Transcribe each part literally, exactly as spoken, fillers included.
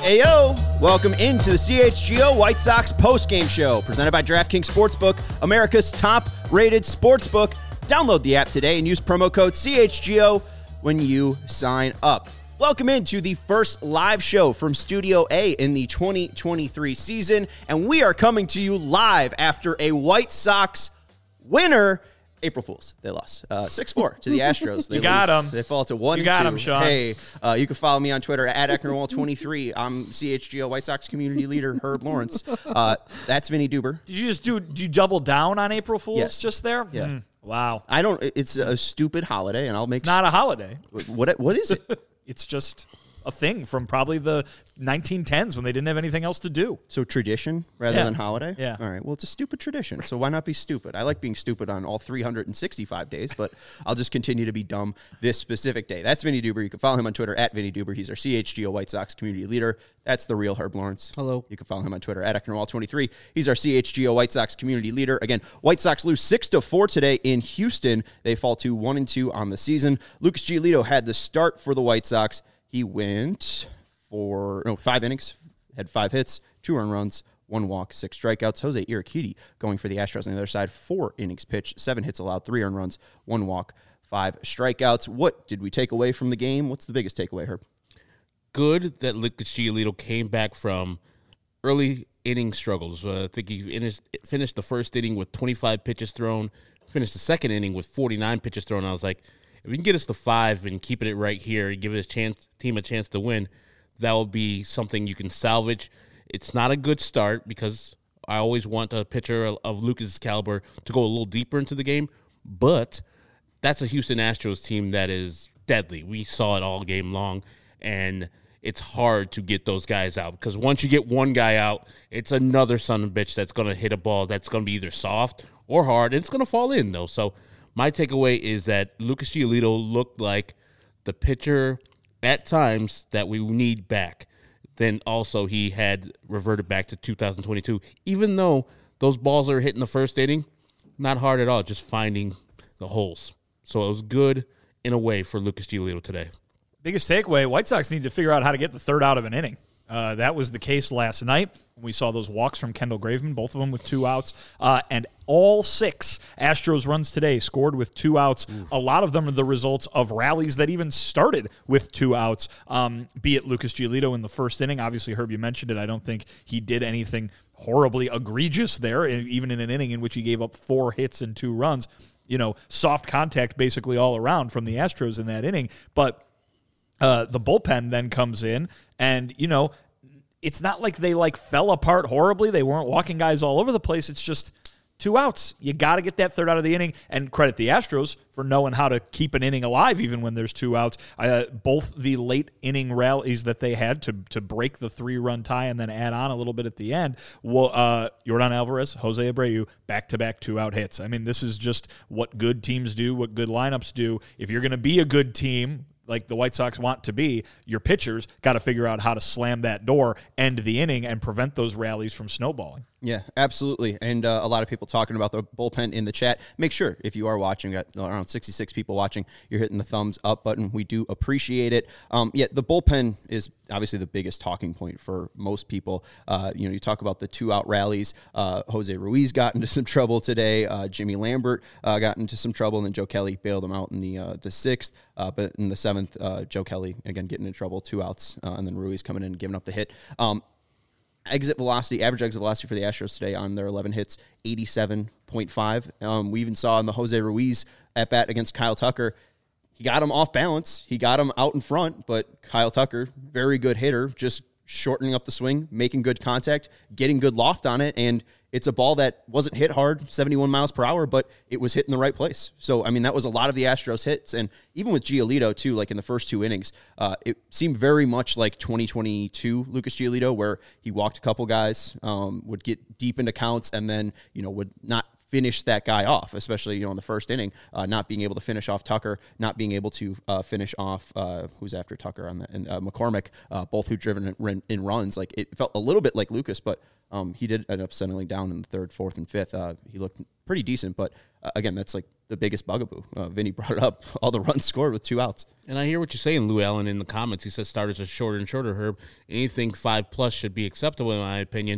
Ayo! Welcome into the C H G O White Sox postgame show, presented by DraftKings Sportsbook, America's top-rated sportsbook. Download the app today and use promo code C H G O when you sign up. Welcome into the first live show from Studio A in the twenty twenty-three season, and we are coming to you live after a White Sox winner. April Fools. They lost uh, six four to the Astros. They you got lose. them. They fall to one you and got two. them, Sean. Hey, uh, you can follow me on Twitter at Ecknerwall twenty-three. I'm C H G O White Sox community leader Herb Lawrence. Uh, that's Vinny Duber. Did you just do? Did you double down on April Fools Yes. just there? Yeah. Mm, wow. I don't. It's a stupid holiday, and I'll make. It's not a holiday. What? What is it? It's just a thing from probably the nineteen tens when they didn't have anything else to do. So tradition rather Yeah. than holiday? Yeah. All right. Well, it's a stupid tradition, so why not be stupid? I like being stupid on all three hundred sixty-five days, but I'll just continue to be dumb this specific day. That's Vinny Duber. You can follow him on Twitter at Vinny Duber. He's our C H G O White Sox community leader. That's the real Herb Lawrence. Hello. You can follow him on Twitter at Ecknerwall twenty-three. He's our C H G O White Sox community leader. Again, White Sox lose six to four today in Houston. They fall to one and two on the season. Lucas Giolito had the start for the White Sox. He went for no five innings, had five hits, two earned runs, one walk, six strikeouts. Jose Urquidy going for the Astros on the other side, four innings pitched, seven hits allowed, three earned runs, one walk, five strikeouts. What did we take away from the game? What's the biggest takeaway, Herb? Good that Lucas Giolito came back from early inning struggles. Uh, I think he finished, finished the first inning with twenty-five pitches thrown, finished the second inning with forty-nine pitches thrown. I was like, if we can get us to five and keeping it right here and give his chance, team a chance to win, that will be something you can salvage. It's not a good start because I always want a pitcher of Lucas' caliber to go a little deeper into the game, but that's a Houston Astros team that is deadly. We saw it all game long, and it's hard to get those guys out because once you get one guy out, it's another son of a bitch that's going to hit a ball that's going to be either soft or hard, and it's going to fall in, though. So my takeaway is that Lucas Giolito looked like the pitcher at times that we need back. Then also he had reverted back to two thousand twenty-two. Even though those balls are hitting the first inning, not hard at all, just finding the holes. So it was good in a way for Lucas Giolito today. Biggest takeaway, White Sox need to figure out how to get the third out of an inning. Uh, that was the case last night. We saw those walks from Kendall Graveman, both of them with two outs. Uh, and all six Astros runs today scored with two outs. Ooh. A lot of them are the results of rallies that even started with two outs, um, be it Lucas Giolito in the first inning. Obviously, Herb, you mentioned it. I don't think he did anything horribly egregious there, even in an inning in which he gave up four hits and two runs. You know, soft contact basically all around from the Astros in that inning. But Uh, the bullpen then comes in, and, you know, it's not like they, like, fell apart horribly. They weren't walking guys all over the place. It's just two outs. You got to get that third out of the inning, and credit the Astros for knowing how to keep an inning alive even when there's two outs. Uh, both the late inning rallies that they had to to break the three-run tie and then add on a little bit at the end, well, uh, Yordan Alvarez, Jose Abreu, back-to-back two-out hits. I mean, this is just what good teams do, what good lineups do. If you're going to be a good team like the White Sox want to be, your pitchers got to figure out how to slam that door, end the inning, and prevent those rallies from snowballing. Yeah, absolutely. And uh, a lot of people talking about the bullpen in the chat. Make sure, if you are watching, got around sixty-six people watching, you're hitting the thumbs up button. We do appreciate it. Um, yeah, the bullpen is obviously the biggest talking point for most people. Uh, you know, you talk about the two-out rallies. Uh, Jose Ruiz got into some trouble today. Uh, Jimmy Lambert uh, got into some trouble, and then Joe Kelly bailed him out in the uh, the sixth. Uh, but in the seventh, uh, Joe Kelly, again, getting in trouble, two outs, uh, and then Ruiz coming in and giving up the hit. Um, Exit velocity, average exit velocity for the Astros today on their eleven hits, eighty-seven point five. Um, we even saw in the Jose Ruiz at bat against Kyle Tucker, he got him off balance. He got him out in front, but Kyle Tucker, very good hitter, just shortening up the swing, making good contact, getting good loft on it, and it's a ball that wasn't hit hard, seventy-one miles per hour, but it was hit in the right place. So, I mean, that was a lot of the Astros hits. And even with Giolito, too, like in the first two innings, uh, it seemed very much like twenty twenty-two Lucas Giolito, where he walked a couple guys, um, would get deep into counts, and then, you know, would not finish that guy off, especially, you know, in the first inning, uh, not being able to finish off Tucker, not being able to uh, finish off uh, who's after Tucker on the and uh, McCormick, uh, both who driven in, in runs. Like it felt a little bit like Lucas, but um, he did end up settling down in the third, fourth, and fifth. Uh, he looked pretty decent, but uh, again, that's like the biggest bugaboo. Uh, Vinny brought it up. All the runs scored with two outs. And I hear what you're saying, Lou Allen, in the comments. He says starters are shorter and shorter, Herb. Anything five plus should be acceptable, in my opinion.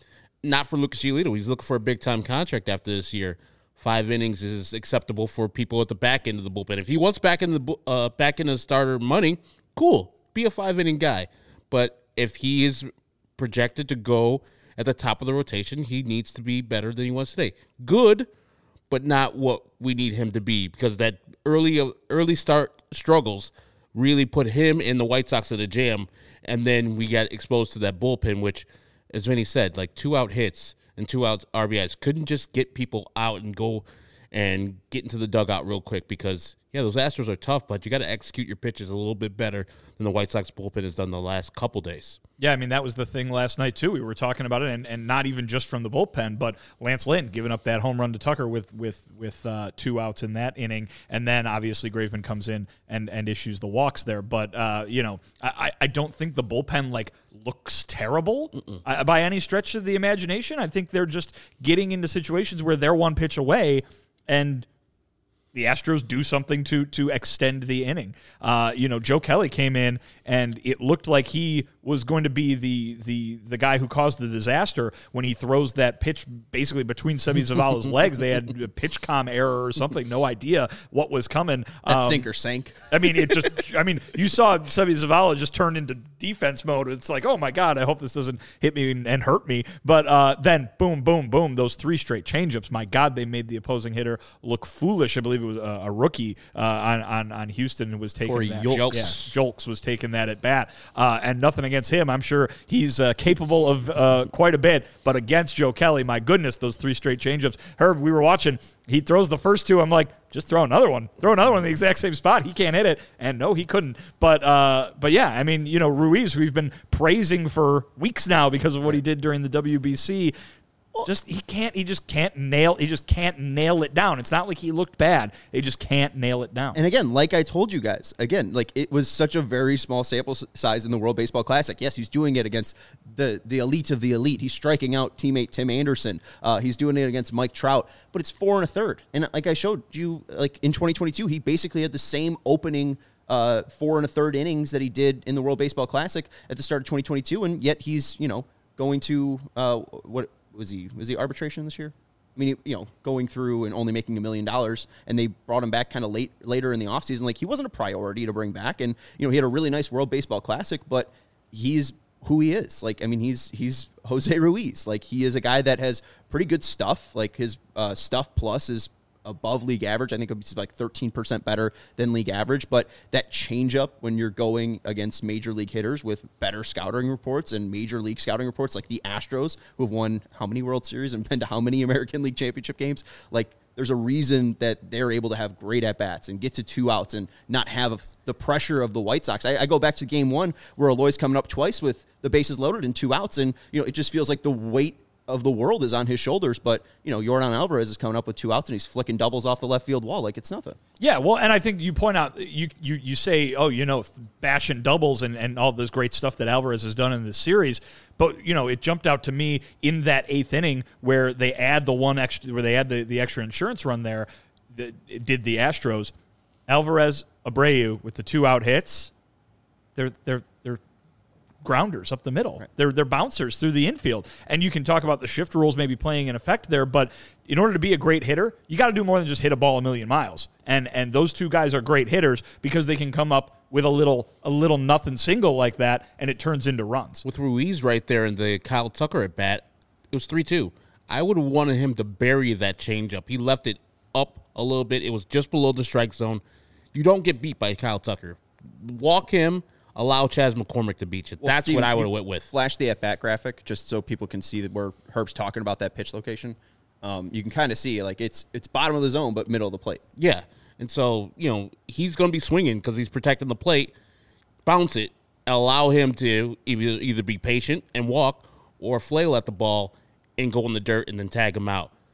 Not for Lucas Giolito. He's looking for a big-time contract after this year. Five innings is acceptable for people at the back end of the bullpen. If he wants back in the uh, back end of starter money, cool. Be a five-inning guy. But if he is projected to go at the top of the rotation, he needs to be better than he was today. Good, but not what we need him to be, because that early early start struggles really put him and the White Sox in a jam, and then we got exposed to that bullpen, which, as Vinny said, like two-out hits and two-out R B Is. Couldn't just get people out and go and get into the dugout real quick because, yeah, those Astros are tough, but you got to execute your pitches a little bit better than the White Sox bullpen has done the last couple days. Yeah, I mean, that was the thing last night, too. We were talking about it, and, and not even just from the bullpen, but Lance Lynn giving up that home run to Tucker with with with uh, two outs in that inning, and then obviously Graveman comes in and, and issues the walks there. But, uh, you know, I, I don't think the bullpen, like, looks terrible I, by any stretch of the imagination. I think they're just getting into situations where they're one pitch away, and the Astros do something to to extend the inning. Uh, you know, Joe Kelly came in, and it looked like he was going to be the the the guy who caused the disaster when he throws that pitch basically between Seby Zavala's legs. They had a pitch com error or something, no idea what was coming. That um, sinker sank. I mean, it just. I mean, you saw Seby Zavala just turn into defense mode. It's like, oh my god, I hope this doesn't hit me and, and hurt me. But uh, then, boom, boom, boom, those three straight changeups. My God, they made the opposing hitter look foolish. I believe it was a, a rookie uh, on, on on Houston who was taking Or that. Yolks. Yeah, Jolks was taking that at bat, uh, and nothing against him. I'm sure he's uh, capable of uh, quite a bit, but against Joe Kelly, my goodness, those three straight changeups. Herb, we were watching. He throws the first two. I'm like, just throw another one. Throw another one in the exact same spot. He can't hit it. And no, he couldn't. But uh, but yeah, I mean, you know, Ruiz, we've been praising for weeks now because of what he did during the W B C. Just he can't. He just can't nail. He just can't nail it down. It's not like he looked bad. He just can't nail it down. And again, like I told you guys, again, like it was such a very small sample size in the World Baseball Classic. Yes, he's doing it against the the elite of the elite. He's striking out teammate Tim Anderson. Uh, he's doing it against Mike Trout. But it's four and a third. And like I showed you, like in twenty twenty-two, he basically had the same opening uh, four and a third innings that he did in the World Baseball Classic at the start of twenty twenty-two. And yet he's, you know, going to uh, what. Was he was he arbitration this year? I mean, you know, going through and only making a million dollars, and they brought him back kind of late later in the offseason. Like, he wasn't a priority to bring back, and you know, he had a really nice World Baseball Classic, but he's who he is. Like, I mean, he's he's Jose Ruiz. Like, he is a guy that has pretty good stuff. Like, his uh, stuff plus is above league average. I think it's like thirteen percent better than league average. But that changeup when you're going against major league hitters with better scouting reports and major league scouting reports, like the Astros, who have won how many World Series and been to how many American League Championship games, like there's a reason that they're able to have great at-bats and get to two outs and not have the pressure of the White Sox. I, I go back to game one where Eloy's coming up twice with the bases loaded and two outs, and you know, it just feels like the weight of the world is on his shoulders, but you know, Yordan Alvarez is coming up with two outs and he's flicking doubles off the left field wall like it's nothing. Yeah, well, and I think you point out, you you you say, oh, you know, bashing doubles and, and all this great stuff that Alvarez has done in this series, but you know, it jumped out to me in that eighth inning where they add the one extra, where they add the, the extra insurance run there, that it did the Astros. Alvarez, Abreu with the two out hits, they're they're they're grounders up the middle. Right. They're they're bouncers through the infield. And you can talk about the shift rules maybe playing an effect there, but in order to be a great hitter, you got to do more than just hit a ball a million miles. And and those two guys are great hitters because they can come up with a little a little nothing single like that, and it turns into runs. With Ruiz right there in the Kyle Tucker at bat, it was three two. I would have wanted him to bury that changeup. He left it up a little bit. It was just below the strike zone. You don't get beat by Kyle Tucker. Walk him. Allow Chas McCormick to beat you. Well, That's Steve, what I would have went with. Flash the at-bat graphic just so people can see that where Herb's talking about that pitch location. Um, you can kind of see, like, it's it's bottom of the zone, but middle of the plate. Yeah. And so, you know, he's going to be swinging because he's protecting the plate. Bounce it. Allow him to either, either be patient and walk or flail at the ball and go in the dirt and then tag him out.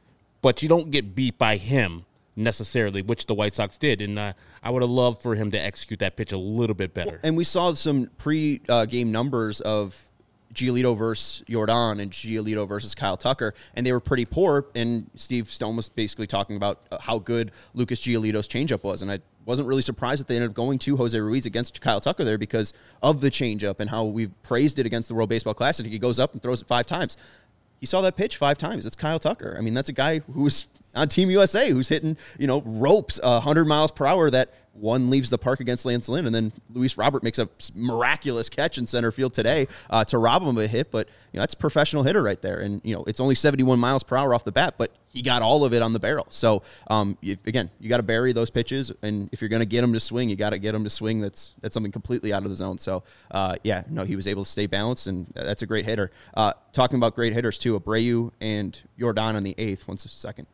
but you don't get beat by him necessarily, which the White Sox did. And uh, I would have loved for him to execute that pitch a little bit better. And we saw some pre-game numbers of Giolito versus Jordan and Giolito versus Kyle Tucker, and they were pretty poor. And Steve Stone was basically talking about how good Lucas Giolito's changeup was. And I wasn't really surprised that they ended up going to Jose Ruiz against Kyle Tucker there because of the changeup and how we've praised it against the World Baseball Classic. He goes up and throws it five times. He saw that pitch five times. That's Kyle Tucker. I mean, that's a guy who's on Team U S A who's hitting, you know, ropes uh, one hundred miles per hour that one leaves the park against Lance Lynn, and then Luis Robert makes a miraculous catch in center field today uh, to rob him of a hit. But you know, that's a professional hitter right there, and you know it's only seventy-one miles per hour off the bat, but he got all of it on the barrel. So um, if, again, you got to bury those pitches, and if you're going to get him to swing, you got to get him to swing. That's that's something completely out of the zone. So uh, yeah, no, he was able to stay balanced, and that's a great hitter. Uh, talking about great hitters too, Abreu and Jordan on the eighth. One second.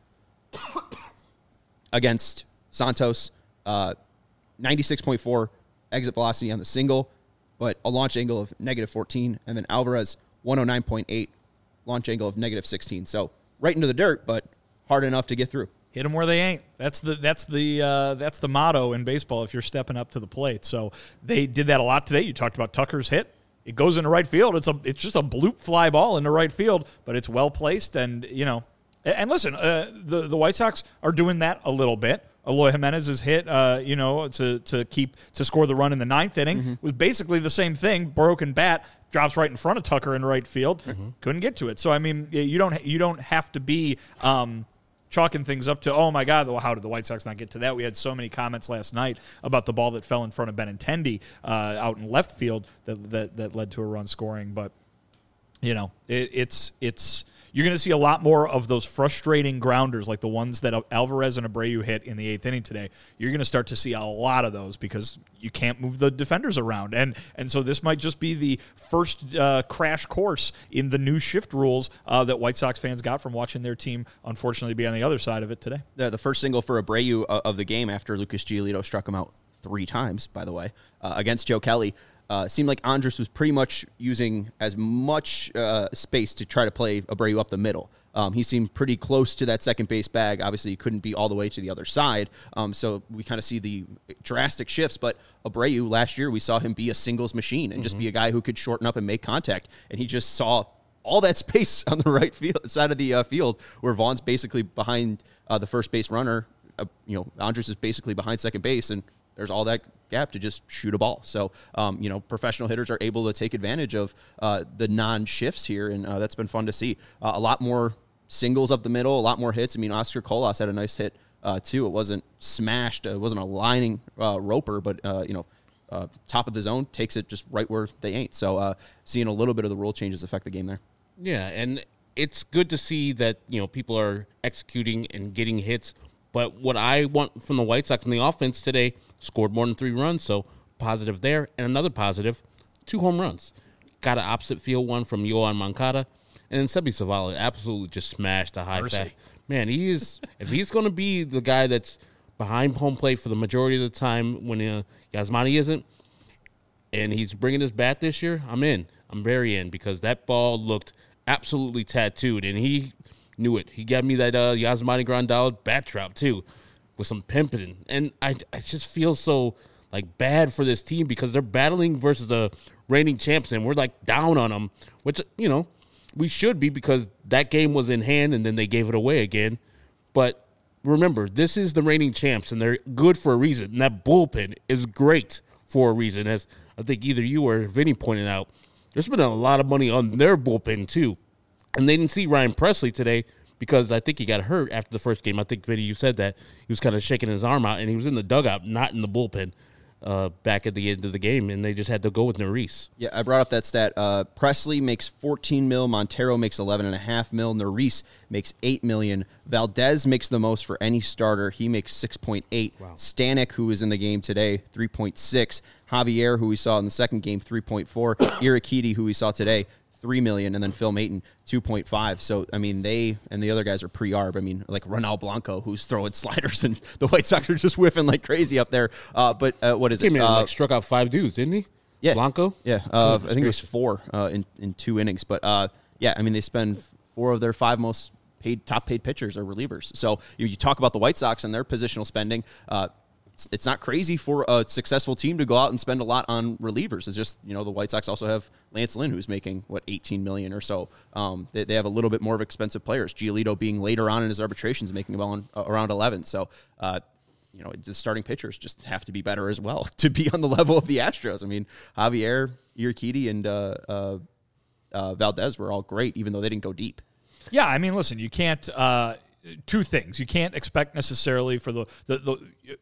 Against Santos, uh, ninety-six point four exit velocity on the single, but a launch angle of negative fourteen, and then Alvarez, one oh nine point eight, launch angle of negative sixteen. So right into the dirt, but hard enough to get through. Hit them where they ain't. That's the that's the uh, that's the motto in baseball if you're stepping up to the plate. So they did that a lot today. You talked about Tucker's hit. It goes into right field. It's a it's just a bloop fly ball into right field, but it's well placed, and you know. And listen, uh, the the White Sox are doing that a little bit. Eloy Jimenez's hit, uh, you know, to to keep to score the run in the ninth inning mm-hmm. was basically the same thing. Broken bat drops right in front of Tucker in right field. Mm-hmm. Couldn't get to it. So I mean, you don't you don't have to be um, chalking things up to oh my God, well, how did the White Sox not get to that? We had so many comments last night about the ball that fell in front of Benintendi uh, out in left field that, that that led to a run scoring. But you know, it, it's it's. You're going to see a lot more of those frustrating grounders like the ones that Alvarez and Abreu hit in the eighth inning today. You're going to start to see a lot of those because you can't move the defenders around. And and so this might just be the first uh, crash course in the new shift rules uh, that White Sox fans got from watching their team, unfortunately, be on the other side of it today. The, the first single for Abreu uh, of the game after Lucas Giolito struck him out three times, by the way, uh, against Joe Kelly. Uh, seemed like Andrus was pretty much using as much uh, space to try to play Abreu up the middle. Um, he seemed pretty close to that second base bag. Obviously, he couldn't be all the way to the other side. Um, so we kind of see the drastic shifts. But Abreu, last year, we saw him be a singles machine and mm-hmm. just be a guy who could shorten up and make contact. And he just saw all that space on the right field side of the uh, field where Vaughn's basically behind uh, the first base runner. Uh, you know, Andrus is basically behind second base, and there's all that gap to just shoot a ball. So, um, you know, professional hitters are able to take advantage of uh, the non-shifts here, and uh, that's been fun to see. Uh, a lot more singles up the middle, a lot more hits. I mean, Oscar Colas had a nice hit, uh, too. It wasn't smashed. It wasn't a lining uh, roper, but, uh, you know, uh, top of the zone, takes it just right where they ain't. So, uh, seeing a little bit of the rule changes affect the game there. Yeah, and it's good to see that, you know, people are executing and getting hits. But what I want from the White Sox in the offense today, scored more than three runs, so positive there. And another positive, two home runs. Got an opposite field one from Yoan Moncada. And then Sebi Zavala absolutely just smashed a high fat. Man, he is, if he's going to be the guy that's behind home plate for the majority of the time when uh, Yasmani isn't, and he's bringing his bat this year, I'm in. I'm very in because that ball looked absolutely tattooed, and he knew it. He got me that uh, Yasmani Grandal bat trap, too, with some pimping. And I, I just feel so, like, bad for this team because they're battling versus the reigning champs, and we're, like, down on them, which, you know, we should be because that game was in hand, and then they gave it away again. But remember, this is the reigning champs, and they're good for a reason. And that bullpen is great for a reason, as I think either you or Vinny pointed out. There's been a lot of money on their bullpen, too. And they didn't see Ryan Presley today because I think he got hurt after the first game. I think, Vinny, you said that. He was kind of shaking his arm out, and he was in the dugout, not in the bullpen uh, back at the end of the game, and they just had to go with Neris. Yeah, I brought up that stat. Uh, Presley makes fourteen mil. Montero makes eleven and a half mil. Neris makes eight million. Valdez makes the most for any starter. He makes six point eight. Wow. Stanek, who is in the game today, three point six. Javier, who we saw in the second game, three point four. Irakiti, who we saw today, three million, and then Phil Maton, two point five. So, I mean, they and the other guys are pre-arb. I mean, like Ronald Blanco, who's throwing sliders, and the White Sox are just whiffing like crazy up there. Uh, but uh, what is it? He uh, like struck out five dudes, didn't he? Yeah. Blanco? Yeah. Uh, I think it was four uh, in, in two innings. But, uh, yeah, I mean, they spend four of their five most paid top paid pitchers or relievers. So you, you talk about the White Sox and their positional spending. Uh, it's, it's not crazy for a successful team to go out and spend a lot on relievers. It's just, you know, the White Sox also have Lance Lynn, who's making what eighteen million dollars or so. Um, they, they have a little bit more of expensive players. Giolito being later on in his arbitrations, making about on, uh, around eleven. So. Uh, You know, the starting pitchers just have to be better as well to be on the level of the Astros. I mean, Javier, Urquidy, and uh, uh, uh, Valdez were all great, even though they didn't go deep. Yeah, I mean, listen, you can't. Uh, two things: you can't expect necessarily for the, the the.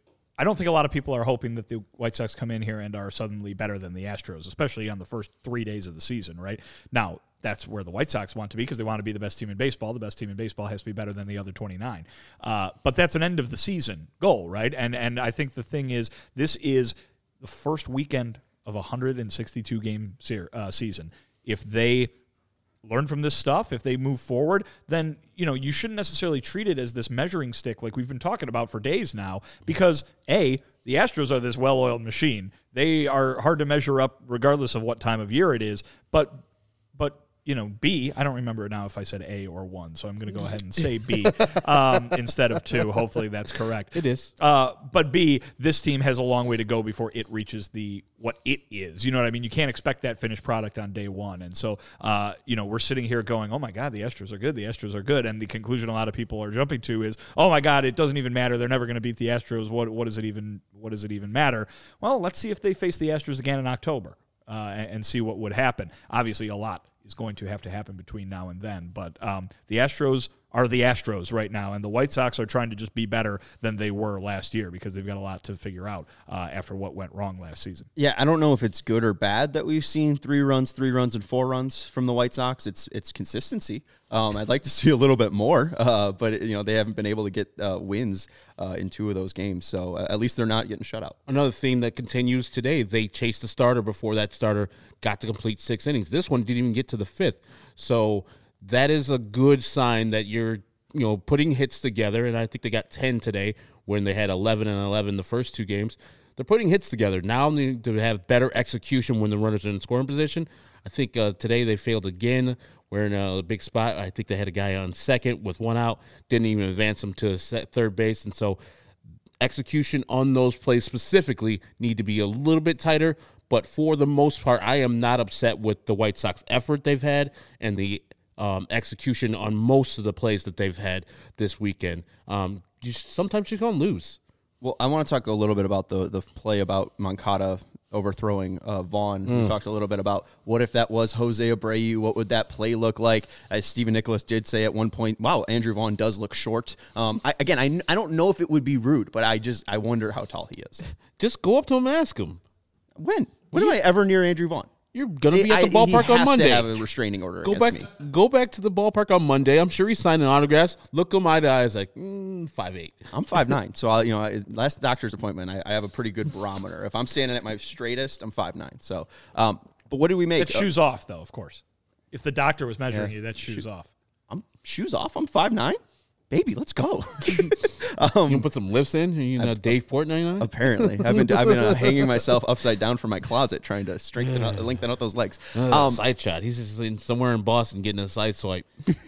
I don't think a lot of people are hoping that the White Sox come in here and are suddenly better than the Astros, especially on the first three days of the season. Right now, that's where the White Sox want to be because they want to be the best team in baseball. The best team in baseball has to be better than the other twenty-nine. Uh, but that's an end of the season goal, right? And and I think the thing is, this is the first weekend of a one hundred sixty-two game se- uh, season. If they learn from this stuff, if they move forward, then, you know, you shouldn't necessarily treat it as this measuring stick like we've been talking about for days now because, A, the Astros are this well-oiled machine. They are hard to measure up regardless of what time of year it is, but but you know, B, I don't remember now if I said A or one, so I'm going to go ahead and say B um, instead of two. Hopefully that's correct. It is. Uh, but B, this team has a long way to go before it reaches the what it is. You know what I mean? You can't expect that finished product on day one. And so, uh, you know, we're sitting here going, oh, my God, the Astros are good. The Astros are good. And the conclusion a lot of people are jumping to is, oh, my God, it doesn't even matter. They're never going to beat the Astros. What, what does it even what does it even matter? Well, let's see if they face the Astros again in October uh, and, and see what would happen. Obviously, a lot is going to have to happen between now and then. But um, the Astros are the Astros right now, and the White Sox are trying to just be better than they were last year because they've got a lot to figure out uh, after what went wrong last season. Yeah, I don't know if it's good or bad that we've seen three runs, three runs, and four runs from the White Sox. It's it's consistency. Um, I'd like to see a little bit more, uh, but you know they haven't been able to get uh, wins uh, in two of those games. So uh, at least they're not getting shut out. Another theme that continues today, they chased the starter before that starter got to complete six innings. This one didn't even get to the fifth. So that is a good sign that you're, you know, putting hits together, and I think they got ten today when they had eleven and eleven the first two games. They're putting hits together. Now they need to have better execution when the runners are in scoring position. I think uh, today they failed again. We're in a big spot. I think they had a guy on second with one out, didn't even advance him to third base, and so execution on those plays specifically need to be a little bit tighter. But for the most part, I am not upset with the White Sox effort they've had and the um, execution on most of the plays that they've had this weekend. Um, you, sometimes you're going to lose. Well, I want to talk a little bit about the the play about Moncada overthrowing uh, Vaughn. Mm. We talked a little bit about what if that was Jose Abreu, what would that play look like? As Stephen Nicholas did say at one point, wow, Andrew Vaughn does look short. Um, I, again, I, I don't know if it would be rude, but I just I wonder how tall he is. Just go up to him and ask him. When? When am I ever near Andrew Vaughn? You're going to be at the I, ballpark he on has Monday. To have a restraining order go against back, me. Go back to the ballpark on Monday. I'm sure he's signing autographs. Look him eye to eye. It's like, mm, five eight. I'm five nine. So, I, you know, I, last doctor's appointment, I, I have a pretty good barometer. If I'm standing at my straightest, I'm five nine. So, um, but what do we make? That shoes uh, off, though, of course. If the doctor was measuring yeah, you, that's shoes shoe, off. I'm shoes off. I'm five nine. Baby, let's go. um, you can put some lifts in. You know, Dave Portnoy. Apparently, I've been I've been uh, hanging myself upside down from my closet trying to strengthen out, lengthen out those legs. Uh, um, side shot. He's just in, somewhere in Boston getting a side swipe.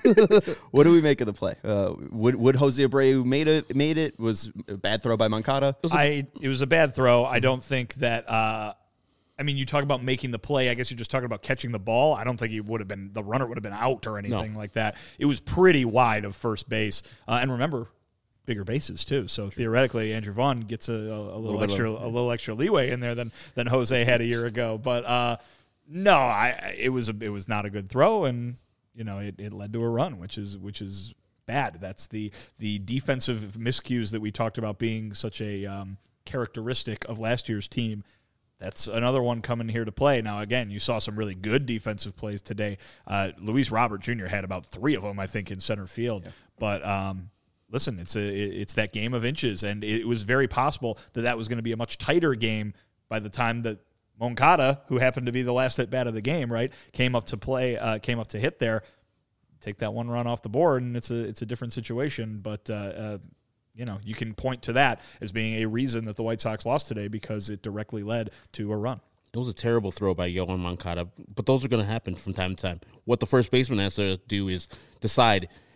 What do we make of the play? Uh, would would Jose Abreu made it? Made it was a bad throw by Moncada. It was a, I it was a bad throw. I don't think that. Uh, I mean, you talk about making the play. I guess you're just talking about catching the ball. I don't think he would have been the runner would have been out or anything no. like that. It was pretty wide of first base, uh, and remember, bigger bases too. So True. theoretically, Andrew Vaughn gets a, a, a little, little extra a little extra leeway in there than than Jose had a year ago. But uh, no, I it was a, it was not a good throw, and you know it, it led to a run, which is which is bad. That's the the defensive miscues that we talked about being such a um, characteristic of last year's team. That's another one coming here to play. Now, again, you saw some really good defensive plays today. Uh, Luis Robert Junior had about three of them, I think, in center field. Yeah. But um, listen, it's a it's that game of inches, and it was very possible that that was going to be a much tighter game by the time that Moncada, who happened to be the last at bat of the game, right, came up to play, uh, came up to hit there, take that one run off the board, and it's a it's a different situation. But uh, uh, you know, you can point to that as being a reason that the White Sox lost today because it directly led to a run. It was a terrible throw by Yoan Moncada, but those are going to happen from time to time. What the first baseman has to do is decide,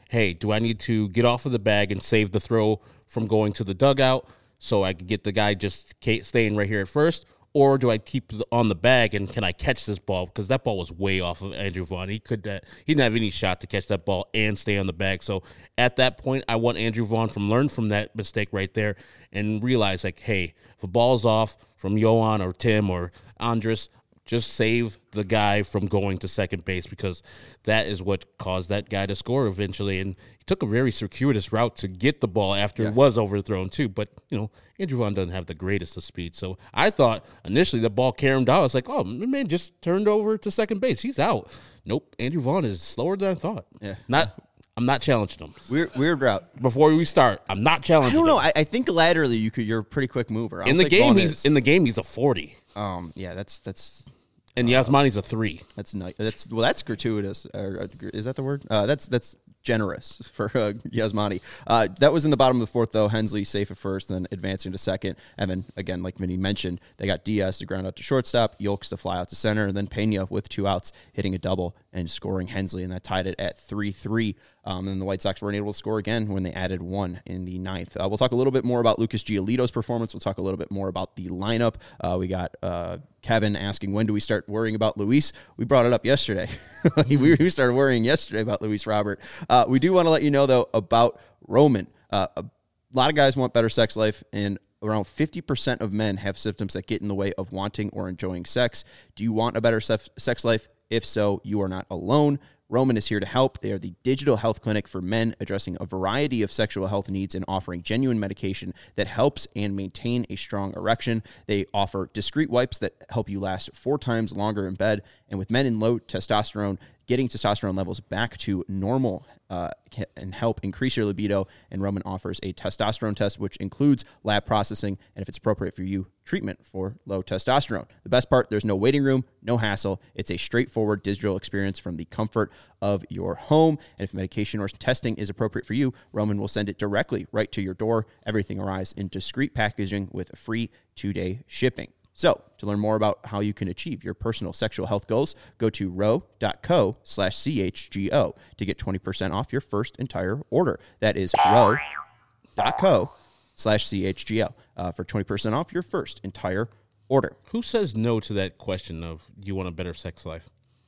hey, do I need to get off of the bag and save the throw from going to the dugout so I can get the guy just staying right here at first? Or do I keep on the bag and can I catch this ball? Because that ball was way off of Andrew Vaughn. He could uh, he didn't have any shot to catch that ball and stay on the bag. So at that point, I want Andrew Vaughn from learn from that mistake right there and realize like, hey, if a ball's off from Yohan or Tim or Andres, just save the guy from going to second base because that is what caused that guy to score eventually. And he took a very circuitous route to get the ball after yeah. it was overthrown too. But, you know, Andrew Vaughn doesn't have the greatest of speed. So I thought initially the ball carried him down. I was like, oh, man just turned over to second base. He's out. Nope, Andrew Vaughn is slower than I thought. Yeah. Not I'm not challenging him. Weird, weird route. Before we start, I'm not challenging him. I don't know. I, I think laterally you could. You're a pretty quick mover. In the game, he's is. in the game. He's a forty. Um. Yeah. That's that's. And Yasmani's a three. That's nice. That's well. That's gratuitous. Or, uh, is that the word? Uh, that's that's generous for uh, Yasmani. Uh, that was in the bottom of the fourth, though. Hensley safe at first, then advancing to second, and then again, like Vinny mentioned, they got Diaz to ground out to shortstop, Yolks to fly out to center, and then Pena with two outs hitting a double and scoring Hensley, and that tied it at three three. Um, and the White Sox weren't able to score again when they added one in the ninth. Uh, we'll talk a little bit more about Lucas Giolito's performance. We'll talk a little bit more about the lineup. Uh, we got uh, Kevin asking, when do we start worrying about Luis? We brought it up yesterday. we, we started worrying yesterday about Luis Robert. Uh, we do want to let you know, though, about Roman. Uh, a lot of guys want better sex life, and around fifty percent of men have symptoms that get in the way of wanting or enjoying sex. Do you want a better sex life? If so, you are not alone. Roman is here to help. They are the digital health clinic for men, addressing a variety of sexual health needs and offering genuine medication that helps and maintain a strong erection. They offer discreet wipes that help you last four times longer in bed. And with men in low testosterone, getting testosterone levels back to normal uh, and help increase your libido. And Roman offers a testosterone test, which includes lab processing, and if it's appropriate for you, treatment for low testosterone. The best part, there's no waiting room, no hassle. It's a straightforward digital experience from the comfort of your home. And if medication or testing is appropriate for you, Roman will send it directly right to your door. Everything arrives in discreet packaging with free two-day shipping. So, to learn more about how you can achieve your personal sexual health goals, go to row.co slash CHGO to get twenty percent off your first entire order. That is row.co slash CHGO uh, for twenty percent off your first entire order. Who says no to that question of, do you want a better sex life?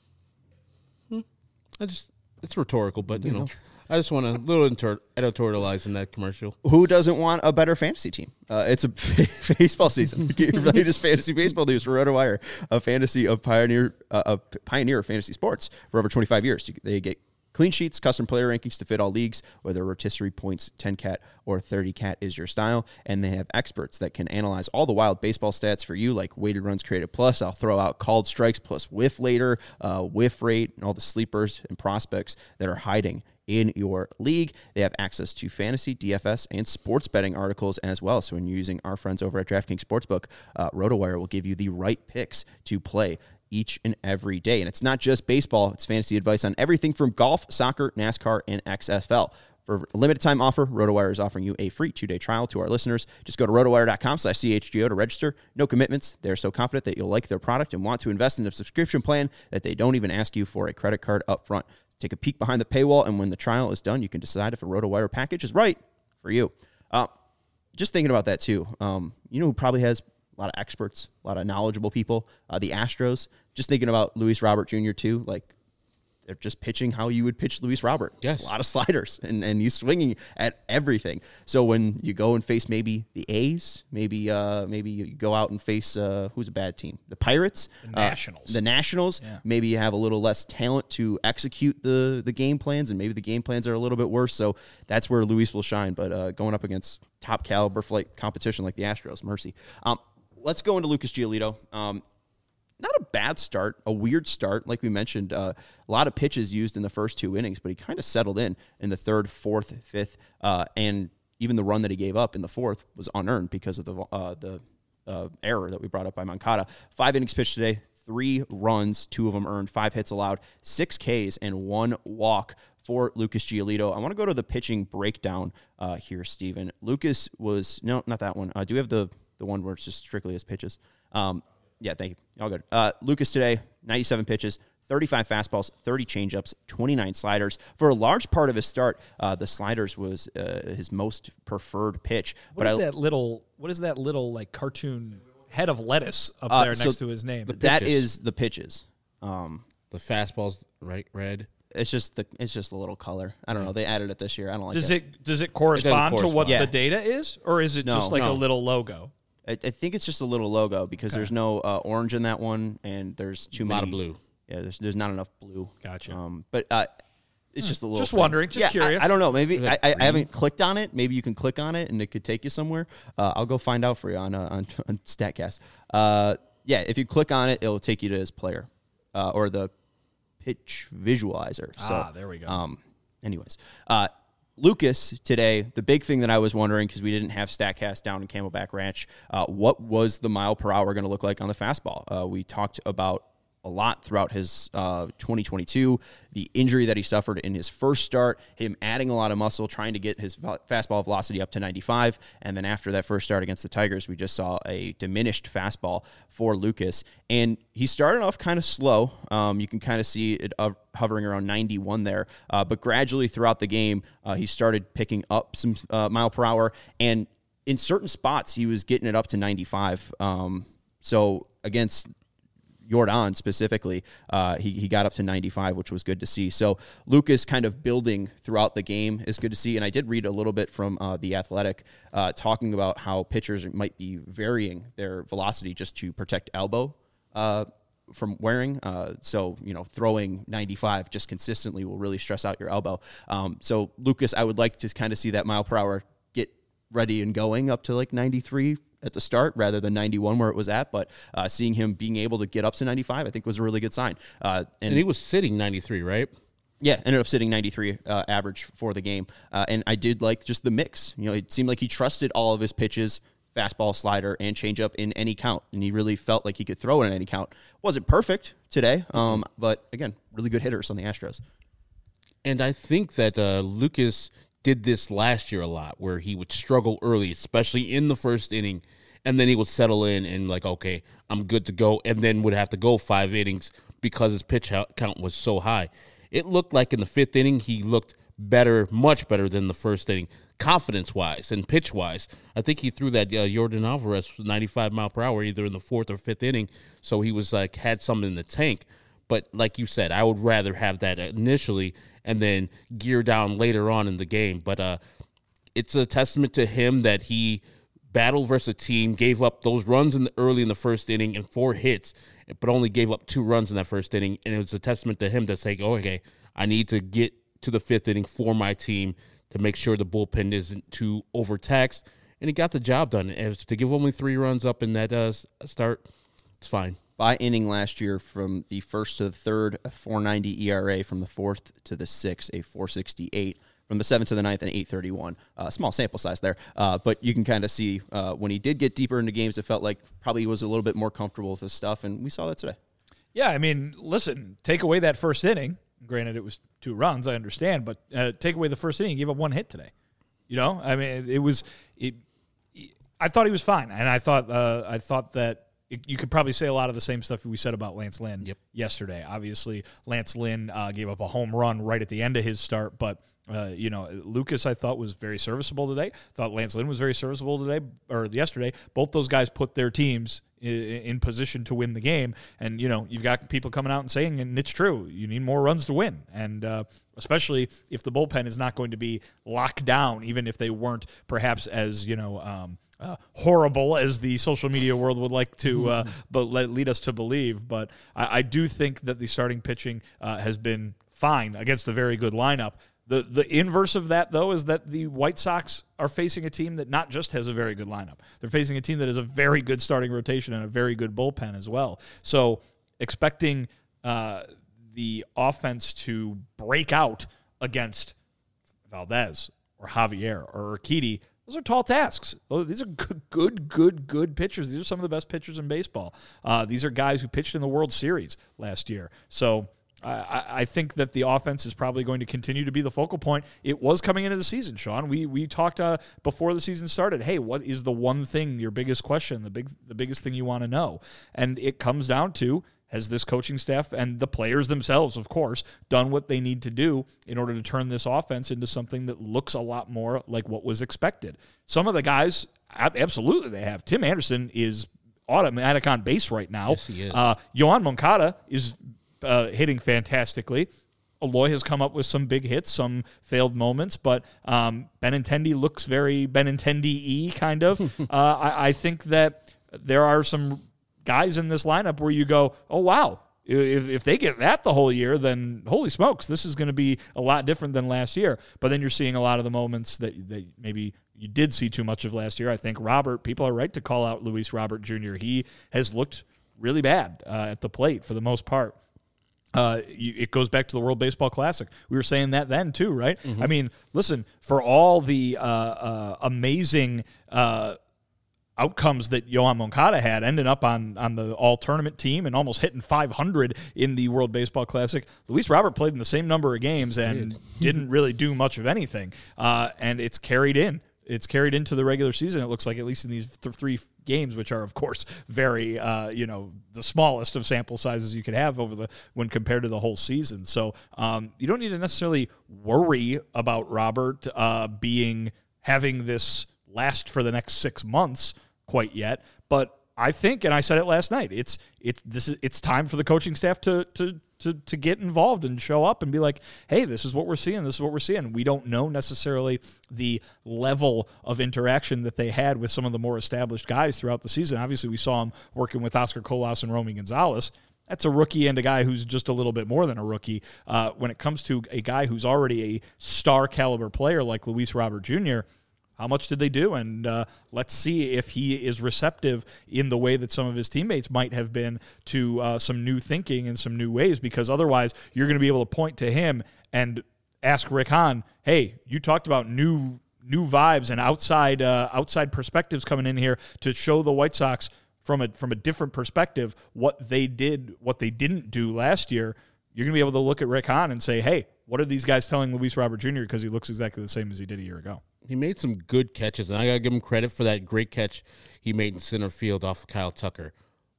Hmm. I just, it's rhetorical, but, you know. I just want a little inter- editorialize in that commercial. Who doesn't want a better fantasy team? Uh, it's a baseball season. Get your latest fantasy baseball news for RotoWire, a fantasy of pioneer, uh, a pioneer of fantasy sports for over twenty-five years. They get clean sheets, custom player rankings to fit all leagues, whether rotisserie points, ten cat, or thirty cat is your style. And they have experts that can analyze all the wild baseball stats for you, like weighted runs created plus. I'll throw out called strikes plus whiff later, uh, whiff rate, and all the sleepers and prospects that are hiding in your league. They have access to fantasy, D F S, and sports betting articles as well. So when you're using our friends over at DraftKings Sportsbook, uh, RotoWire will give you the right picks to play each and every day. And it's not just baseball, it's fantasy advice on everything from golf, soccer, NASCAR, and X F L. For a limited time offer, RotoWire is offering you a free two-day trial to our listeners. Just go to rotowire.com slash CHGO to register. No commitments. They're so confident that you'll like their product and want to invest in a subscription plan that they don't even ask you for a credit card up front. Take a peek behind the paywall, and when the trial is done, you can decide if a RotoWire package is right for you. Uh, just thinking about that, too. Um, you know who probably has a lot of experts, a lot of knowledgeable people? Uh, the Astros. Just thinking about Luis Robert Junior, too. Like, they're just pitching how you would pitch Luis Robert. Yes. A lot of sliders, and, and he's swinging at everything. So when you go and face maybe the A's, maybe uh, maybe you go out and face, uh, who's a bad team? The Pirates. The Nationals. Uh, the Nationals. Yeah. Maybe you have a little less talent to execute the, the game plans, and maybe the game plans are a little bit worse. So that's where Luis will shine. But uh, going up against top caliber flight competition like the Astros, mercy. Um, let's go into Lucas Giolito. Um, Not a bad start, a weird start. Like we mentioned, uh, a lot of pitches used in the first two innings, but he kind of settled in in the third, fourth, fifth, uh, and even the run that he gave up in the fourth was unearned because of the uh, the uh, error that we brought up by Moncada. Five innings pitched today, three runs, two of them earned, five hits allowed, six Ks, and one walk for Lucas Giolito. I want to go to the pitching breakdown uh, here, Steven. Lucas was, no, not that one. Uh, do we have the, the one where it's just strictly his pitches? Um, Yeah, thank you. All good. Uh, Lucas today, ninety-seven pitches, thirty-five fastballs, thirty changeups, twenty-nine sliders. For a large part of his start, uh, the sliders was uh, his most preferred pitch. What but is I, that little? What is that little like cartoon head of lettuce up uh, there so next to his name? That is the pitches. Um, The fastballs, right, red. It's just the it's just a little color. I don't know. They added it this year. I don't like does it. it does it correspond, to what correspond. the data is, or is it No, just like no. a little logo? I, I think it's just a little logo because Okay. there's no uh, orange in that one, and there's too A many. lot of blue. Yeah, there's there's not enough blue. Gotcha. Um, but uh, it's just a little. Just thing. wondering, just Yeah, I- curious. I, don't know. Maybe Is I, that I, I green? haven't clicked on it. Maybe you can click on it and it could take you somewhere. Uh, I'll go find out for you on uh, on, on Statcast. Uh, yeah, if you click on it, it'll take you to his player uh, or the pitch visualizer. So, Ah, there we go. Um, anyways, uh, Lucas today, the big thing that I was wondering, because we didn't have Statcast down in Camelback Ranch, uh, what was the mile per hour going to look like on the fastball? Uh, we talked about a lot throughout his uh, twenty twenty-two, the injury that he suffered in his first start, him adding a lot of muscle, trying to get his vo- fastball velocity up to ninety-five, and then after that first start against the Tigers, we just saw a diminished fastball for Lucas, and he started off kind of slow. Um, you can kind of see it uh, hovering around ninety-one there, uh, but gradually throughout the game, uh, he started picking up some uh, mile per hour, and in certain spots, he was getting it up to ninety-five. Um, so against Jordan specifically, uh, he, he got up to ninety-five, which was good to see. So Lucas kind of building throughout the game is good to see. And I did read a little bit from uh, The Athletic uh, talking about how pitchers might be varying their velocity just to protect elbow uh, from wearing. Uh, so, you know, throwing ninety-five just consistently will really stress out your elbow. Um, so Lucas, I would like to kind of see that mile per hour get ready and going up to like ninety-three at the start rather than ninety-one where it was at, but uh, seeing him being able to get up to ninety-five, I think was a really good sign. Uh, and, And he was sitting ninety-three, right? yeah, ended up sitting ninety-three uh, average for the game. Uh, and I did like just the mix. You know, it seemed like he trusted all of his pitches, fastball, slider, and changeup in any count, and he really felt like he could throw it in any count. Wasn't perfect today, um, but again, really good hitters on the Astros. And I think that uh, Lucas did this last year a lot, where he would struggle early, especially in the first inning, and then he would settle in and like, okay, I'm good to go, and then would have to go five innings because his pitch count was so high. It looked like in the fifth inning he looked better, much better than the first inning, confidence-wise and pitch-wise. I think he threw that uh, Jordan Alvarez ninety-five mile per hour either in the fourth or fifth inning, so he was like had something in the tank. But like you said, I would rather have that initially and then gear down later on in the game. But uh, it's a testament to him that he battled versus a team, gave up those runs in the early in the first inning and four hits, but only gave up two runs in that first inning. And it was a testament to him to say, oh, okay, I need to get to the fifth inning for my team to make sure the bullpen isn't too overtaxed. And he got the job done. As to give only three runs up in that uh, start, it's fine. By inning last year, from the first to the third, a four ninety E R A. From the fourth to the sixth, a four sixty-eight. From the seventh to the ninth, an eight thirty-one. Uh, small sample size there, uh, but you can kind of see uh, when he did get deeper into games, it felt like probably he was a little bit more comfortable with his stuff, and we saw that today. Yeah, I mean, listen, take away that first inning. Granted, it was two runs, I understand, but uh, take away the first inning, he gave up one hit today. You know, I mean, it was. It, I thought he was fine, and I thought uh, I thought that. You could probably say a lot of the same stuff we said about Lance Lynn yep. yesterday. Obviously, Lance Lynn uh, gave up a home run right at the end of his start, but uh, you know, Lucas I thought was very serviceable today. Thought Lance Lynn was very serviceable today or yesterday. Both those guys put their teams in, in position to win the game, and you know, you've got people coming out and saying, and it's true, you need more runs to win, and uh, especially if the bullpen is not going to be locked down, even if they weren't perhaps as you know. Um, Uh, horrible as the social media world would like to uh, but let, lead us to believe. But I, I do think that the starting pitching uh, has been fine against a very good lineup. The the inverse of that, though, is that the White Sox are facing a team that not just has a very good lineup. They're facing a team that has a very good starting rotation and a very good bullpen as well. So expecting uh, the offense to break out against Valdez or Javier or Urquidy, those are tall tasks. These are good, good, good, good pitchers. These are some of the best pitchers in baseball. Uh, these are guys who pitched in the World Series last year. So I, I think that the offense is probably going to continue to be the focal point. It was coming into the season, Sean. We we talked uh, before the season started. Hey, what is the one thing, your biggest question, the big the biggest thing you want to know? And it comes down to, has this coaching staff and the players themselves, of course, done what they need to do in order to turn this offense into something that looks a lot more like what was expected. Some of the guys, absolutely they have. Tim Anderson is automatic on base right now. Yes, he is. Uh, Yoan Moncada is uh, hitting fantastically. Eloy has come up with some big hits, some failed moments, but um, Benintendi looks very Benintendi-y kind of. uh, I, I think that there are some guys in this lineup where you go, oh, wow, if, if they get that the whole year, then holy smokes, this is going to be a lot different than last year. But then you're seeing a lot of the moments that, that maybe you did see too much of last year. I think Robert, people are right to call out Luis Robert Junior He has looked really bad uh, at the plate for the most part. Uh, you, it goes back to the World Baseball Classic. We were saying that then too, right? Mm-hmm. I mean, listen, for all the uh, uh, amazing uh, outcomes that Yoan Moncada had, ending up on, on the all-tournament team and almost hitting five hundred in the World Baseball Classic, Luis Robert played in the same number of games and didn't really do much of anything. Uh, and it's carried in. It's carried into the regular season, it looks like, at least in these th- three games, which are, of course, very, uh, you know, the smallest of sample sizes you could have over the when compared to the whole season. So um, you don't need to necessarily worry about Robert uh, being having this last for the next six months quite yet. But I think, and I said it last night, it's it's this is it's time for the coaching staff to to. To, to get involved and show up and be like, hey, this is what we're seeing. This is what we're seeing. We don't know necessarily the level of interaction that they had with some of the more established guys throughout the season. Obviously, we saw them working with Oscar Colas and Romy Gonzalez. That's a rookie and a guy who's just a little bit more than a rookie. Uh, when it comes to a guy who's already a star caliber player like Luis Robert Junior, how much did they do? And uh, let's see if he is receptive in the way that some of his teammates might have been to uh, some new thinking and some new ways, because otherwise you're going to be able to point to him and ask Rick Hahn, hey, you talked about new new vibes and outside uh, outside perspectives coming in here to show the White Sox from a from a different perspective what they did, what they didn't do last year. You're going to be able to look at Rick Hahn and say, hey, what are these guys telling Luis Robert Junior because he looks exactly the same as he did a year ago. He made some good catches, and I got to give him credit for that great catch he made in center field off of Kyle Tucker.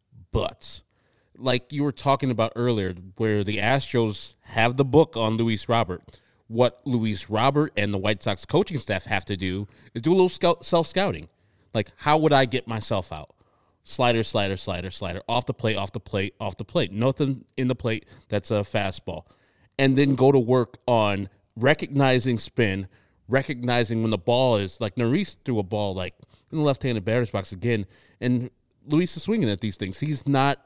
But, like you were talking about earlier, where the Astros have the book on Luis Robert, what Luis Robert and the White Sox coaching staff have to do is do a little scout, self-scouting. Like, how would I get myself out? Slider, slider, slider, slider, off the plate, off the plate, off the plate. Nothing in the plate that's a fastball. And then go to work on recognizing spin, recognizing when the ball is, like Neris threw a ball like in the left-handed batter's box again, and Luis is swinging at these things. He's not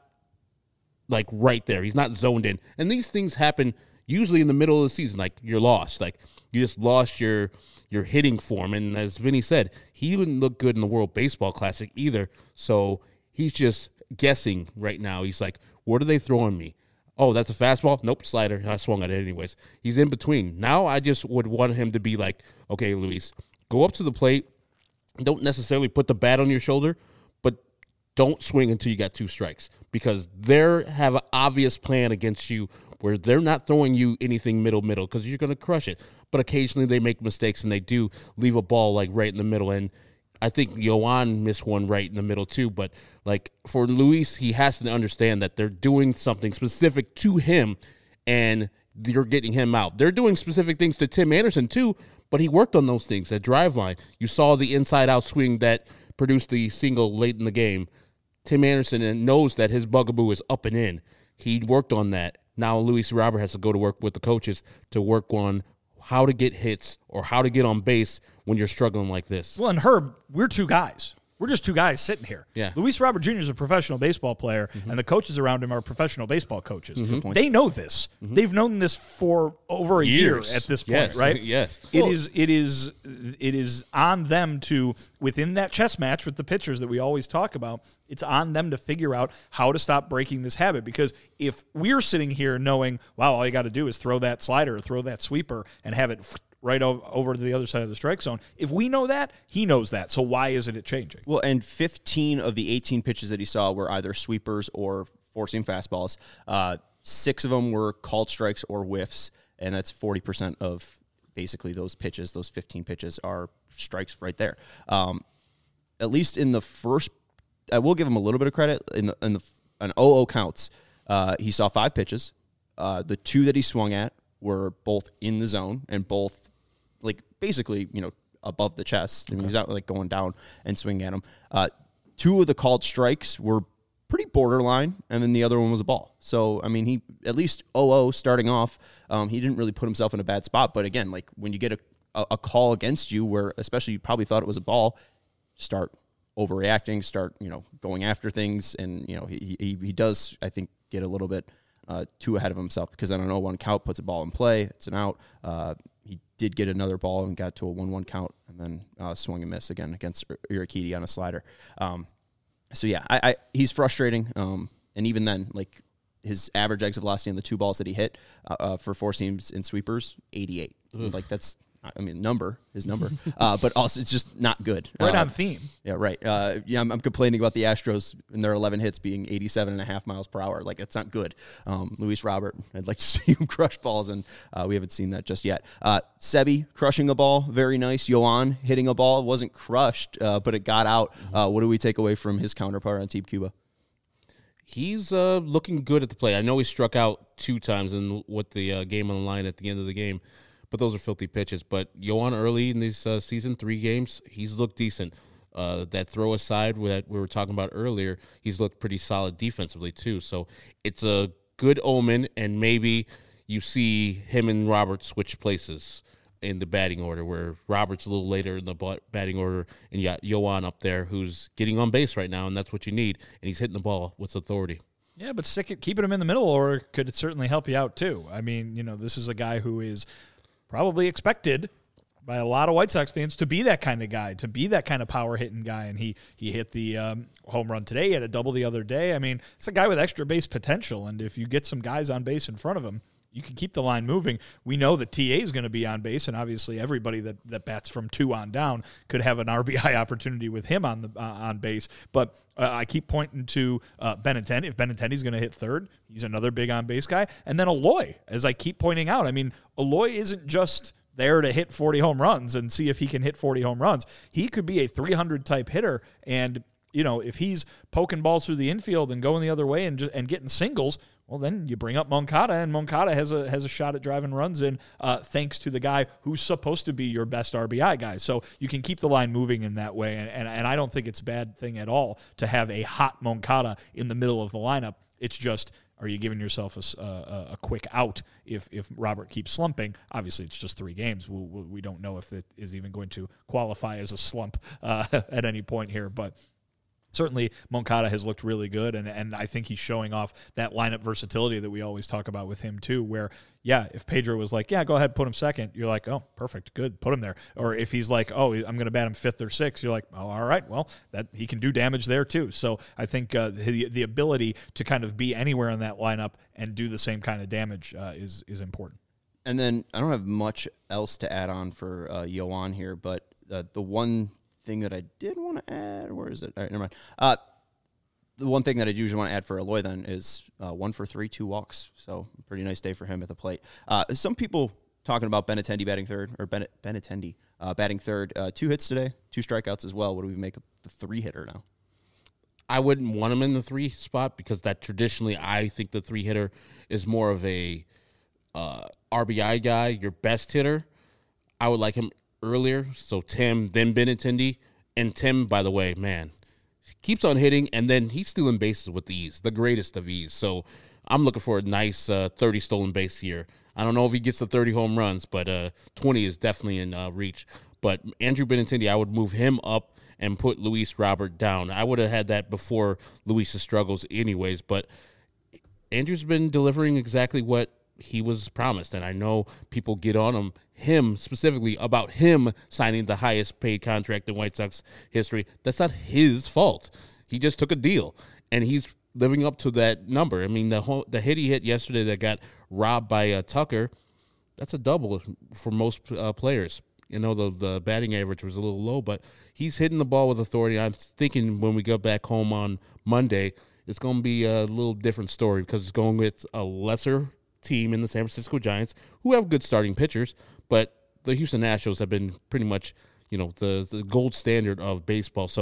like right there. He's not zoned in. And these things happen usually in the middle of the season. Like you're lost. Like you just lost your your hitting form. And as Vinny said, he wouldn't look good in the World Baseball Classic either. So he's just guessing right now. He's like, what are they throwing me? Oh, that's a fastball? Nope, slider. I swung at it anyways. He's in between. Now I just would want him to be like, okay, Luis, go up to the plate. Don't necessarily put the bat on your shoulder, but don't swing until you got two strikes, because they have an obvious plan against you where they're not throwing you anything middle-middle because you're going to crush it. But occasionally they make mistakes, and they do leave a ball like right in the middle. And I think Yoan missed one right in the middle too, but like for Luis, he has to understand that they're doing something specific to him and you're getting him out. They're doing specific things to Tim Anderson too, but he worked on those things at Driveline. You saw the inside-out swing that produced the single late in the game. Tim Anderson knows that his bugaboo is up and in. He worked on that. Now Luis Robert has to go to work with the coaches to work on how to get hits or how to get on base when you're struggling like this. Well, and Herb, we're two guys. We're just two guys sitting here. Yeah. Luis Robert Junior is a professional baseball player, mm-hmm. and the coaches around him are professional baseball coaches. Mm-hmm. They know this. Mm-hmm. They've known this for over a Years. year at this point, yes. right? Yes. It well, is. It is. It is on them to, within that chess match with the pitchers that we always talk about, it's on them to figure out how to stop breaking this habit. Because if we're sitting here knowing, wow, all you got to do is throw that slider or throw that sweeper and have it right over to the other side of the strike zone. If we know that, he knows that. So why isn't it changing? Well, and fifteen of the eighteen pitches that he saw were either sweepers or four-seam fastballs. Uh, six of them were called strikes or whiffs, and that's forty percent of basically those pitches. Those fifteen pitches are strikes right there. Um, at least in the first, I will give him a little bit of credit in the in the on oh oh counts. Uh, he saw five pitches. Uh, the two that he swung at were both in the zone and both, like, basically, you know, above the chest. I mean, he's not, like, going down and swinging at them. Uh, two of the called strikes were pretty borderline, and then the other one was a ball. So, I mean, he at least oh oh starting off. Um, he didn't really put himself in a bad spot. But, again, like, when you get a, a, a call against you where especially you probably thought it was a ball, start overreacting, start, you know, going after things. And, you know, he he, he does, I think, get a little bit uh, too ahead of himself because then an oh one count puts a ball in play. It's an out. Uh, he did get another ball and got to a one one count and then uh, swung and miss again against Urquidy on a slider. Um, so, yeah, I, I he's frustrating. Um, and even then, like, his average exit velocity on the two balls that he hit uh, uh, for four seams in sweepers, eighty-eight. Ugh. Like, that's, I mean, number, his number. uh, but also, it's just not good. Right uh, on theme. Yeah, right. Uh, yeah, I'm, I'm complaining about the Astros and their eleven hits being eighty-seven and a half miles per hour. Like, that's not good. Um, Luis Robert, I'd like to see him crush balls, and uh, we haven't seen that just yet. Uh, Sebi crushing a ball, very nice. Yoan hitting a ball, wasn't crushed, uh, but it got out. Uh, what do we take away from his counterpart on Team Cuba? He's uh, looking good at the plate. I know he struck out two times in with the uh, game on the line at the end of the game, but those are filthy pitches. But Yoan early in this uh, season, three games, he's looked decent. Uh, that throw aside that we were talking about earlier, he's looked pretty solid defensively too. So it's a good omen, and maybe you see him and Robert switch places in the batting order, where Robert's a little later in the batting order, and you got Yoan up there who's getting on base right now, and that's what you need, and he's hitting the ball with authority. Yeah, but stick it, keeping him in the middle order could certainly help you out too. I mean, you know, this is a guy who is probably expected by a lot of White Sox fans to be that kind of guy, to be that kind of power-hitting guy, and he he hit the um, home run today, he had a double the other day. I mean, it's a guy with extra base potential, and if you get some guys on base in front of him, you can keep the line moving. We know that T A is going to be on base, and obviously everybody that, that bats from two on down could have an R B I opportunity with him on the uh, on base. But uh, I keep pointing to uh, Benintendi. If Benintendi's going to hit third, he's another big on base guy. And then Eloy, as I keep pointing out. I mean, Eloy isn't just there to hit forty home runs and see if he can hit forty home runs. He could be a three hundred type hitter, and you know, if he's poking balls through the infield and going the other way and just, and getting singles, well, then you bring up Moncada, and Moncada has a has a shot at driving runs in, uh, thanks to the guy who's supposed to be your best R B I guy. So you can keep the line moving in that way, and, and, and I don't think it's a bad thing at all to have a hot Moncada in the middle of the lineup. It's just, are you giving yourself a, a, a quick out if, if Robert keeps slumping? Obviously, it's just three games. We, we don't know if it is even going to qualify as a slump uh, at any point here, but certainly, Moncada has looked really good, and, and I think he's showing off that lineup versatility that we always talk about with him, too, where, yeah, if Pedro was like, yeah, go ahead, put him second, you're like, oh, perfect, good, put him there. Or if he's like, oh, I'm going to bat him fifth or sixth, you're like, oh, all right, well, that he can do damage there, too. So I think uh, the, the ability to kind of be anywhere in that lineup and do the same kind of damage uh, is, is important. And then I don't have much else to add on for uh, Yoan here, but uh, the one thing that I did want to add, where is it? All right, never mind. Uh, the one thing that I usually want to add for Eloy then is uh, one for three, two walks. So pretty nice day for him at the plate. Uh, some people talking about Benintendi batting third, or Ben- Benintendi uh, batting third. Uh, two hits today, two strikeouts as well. What do we make of the three hitter now? I wouldn't want him in the three spot because that traditionally I think the three hitter is more of a uh, R B I guy, your best hitter. I would like him earlier, so Tim, then Benintendi, and Tim, by the way, man, keeps on hitting, and then he's stealing bases with ease, the greatest of ease. So I'm looking for a nice uh, thirty stolen base here. I don't know if he gets the thirty home runs, but uh, twenty is definitely in uh, reach. But Andrew Benintendi, I would move him up and put Luis Robert down. I would have had that before Luis's struggles anyways, but Andrew's been delivering exactly what he was promised, and I know people get on him, him specifically, about him signing the highest paid contract in White Sox history. That's not his fault. He just took a deal, and he's living up to that number. I mean, the whole, the hit he hit yesterday that got robbed by uh, Tucker, that's a double for most uh, players. You know, the, the batting average was a little low, but he's hitting the ball with authority. I'm thinking when we go back home on Monday, it's going to be a little different story because it's going with a lesser team in the San Francisco Giants who have good starting pitchers, but the Houston Astros have been pretty much, you know, the, the gold standard of baseball. So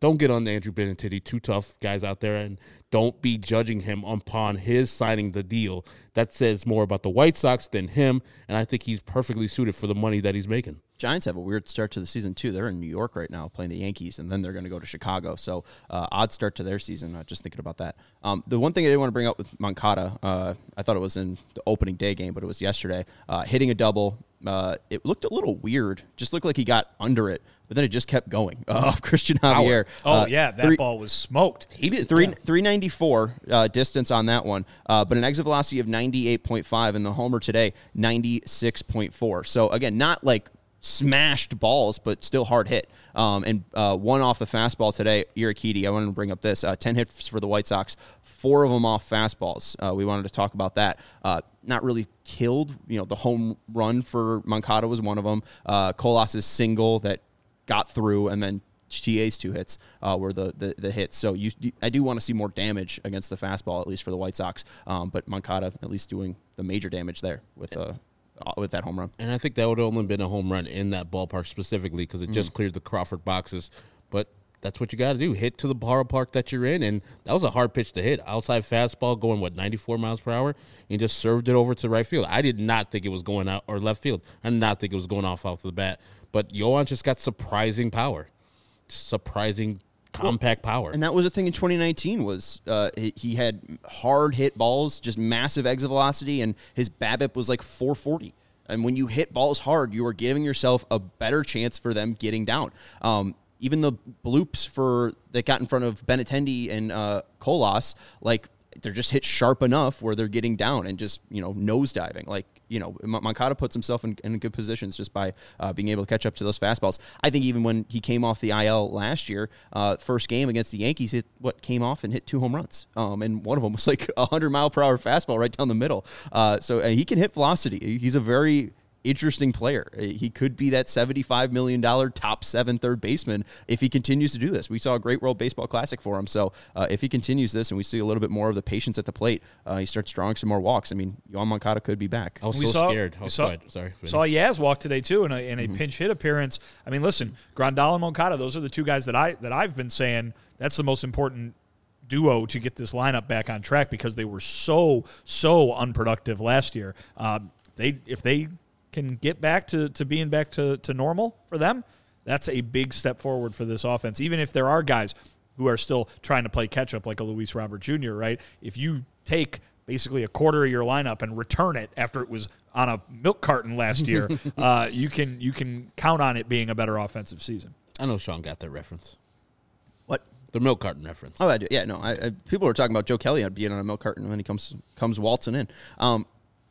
don't get on Andrew Benintendi, too tough guys out there, and don't be judging him upon his signing the deal. That says more about the White Sox than him, and I think he's perfectly suited for the money that he's making. Giants have a weird start to the season, too. They're in New York right now playing the Yankees, and then they're going to go to Chicago. So, uh, odd start to their season, uh, just thinking about that. Um, the one thing I didn't want to bring up with Moncada, uh, I thought it was in the opening day game, but it was yesterday, uh, hitting a double. Uh, it looked a little weird. Just looked like he got under it, but then it just kept going uh, off Christian Javier. Oh, uh, yeah, that three, ball was smoked. He did. Three, yeah. three ninety-four uh, distance on that one, uh, but an exit velocity of ninety-eight point five, and the homer today, ninety-six point four. So, again, not like smashed balls, but still hard hit. Um, and uh, one off the fastball today, Urquidy. I wanted to bring up this. Uh, ten hits for the White Sox, four of them off fastballs. Uh, we wanted to talk about that. Uh, not really killed. You know, the home run for Moncada was one of them. Uh, Colas' single that got through, and then T A's two hits uh, were the, the, the hits. So you, I do want to see more damage against the fastball, at least for the White Sox. Um, but Moncada at least doing the major damage there with uh, with that home run. And I think that would have only been a home run in that ballpark specifically because it mm. just cleared the Crawford boxes. But that's what you got to do. Hit to the ballpark that you're in. And that was a hard pitch to hit. Outside fastball going, what, ninety-four miles per hour? And just served it over to right field. I did not think it was going out, or left field. I did not think it was going off off the bat. But Yoan just got surprising power. Surprising compact well, power. And that was the thing in twenty nineteen was uh, he, he had hard hit balls, just massive exit velocity, and his BABIP was like four forty. And when you hit balls hard, you are giving yourself a better chance for them getting down. Um, even the bloops for that got in front of Benintendi and uh, Colas, like they're just hit sharp enough where they're getting down and just, you know, nosediving. Like, you know, Moncada puts himself in, in good positions just by uh, being able to catch up to those fastballs. I think even when he came off the I L last year, uh, first game against the Yankees, hit what came off and hit two home runs. Um, and one of them was like a hundred mile per hour fastball right down the middle. Uh, so uh, he can hit velocity. He's a very interesting player. He could be that seventy-five million dollars top seven third baseman if he continues to do this. We saw a great World Baseball Classic for him. So uh, if he continues this and we see a little bit more of the patience at the plate, uh, he starts drawing some more walks. I mean, Yoan Moncada could be back. I was we so saw, scared. I was saw, Sorry. Saw Yaz walk today too in a, in a mm-hmm. pinch hit appearance. I mean, listen, Grandal and Moncada, those are the two guys that I that I've been saying that's the most important duo to get this lineup back on track because they were so so unproductive last year. Uh, they if they can get back to, to being back to, to normal for them, that's a big step forward for this offense. Even if there are guys who are still trying to play catch-up like a Luis Robert Junior, right? If you take basically a quarter of your lineup and return it after it was on a milk carton last year, uh, you can you can count on it being a better offensive season. I know Sean got that reference. What? The milk carton reference. Oh, I do. Yeah, no. I, I, people were talking about Joe Kelly being on a milk carton when he comes comes waltzing in. Um,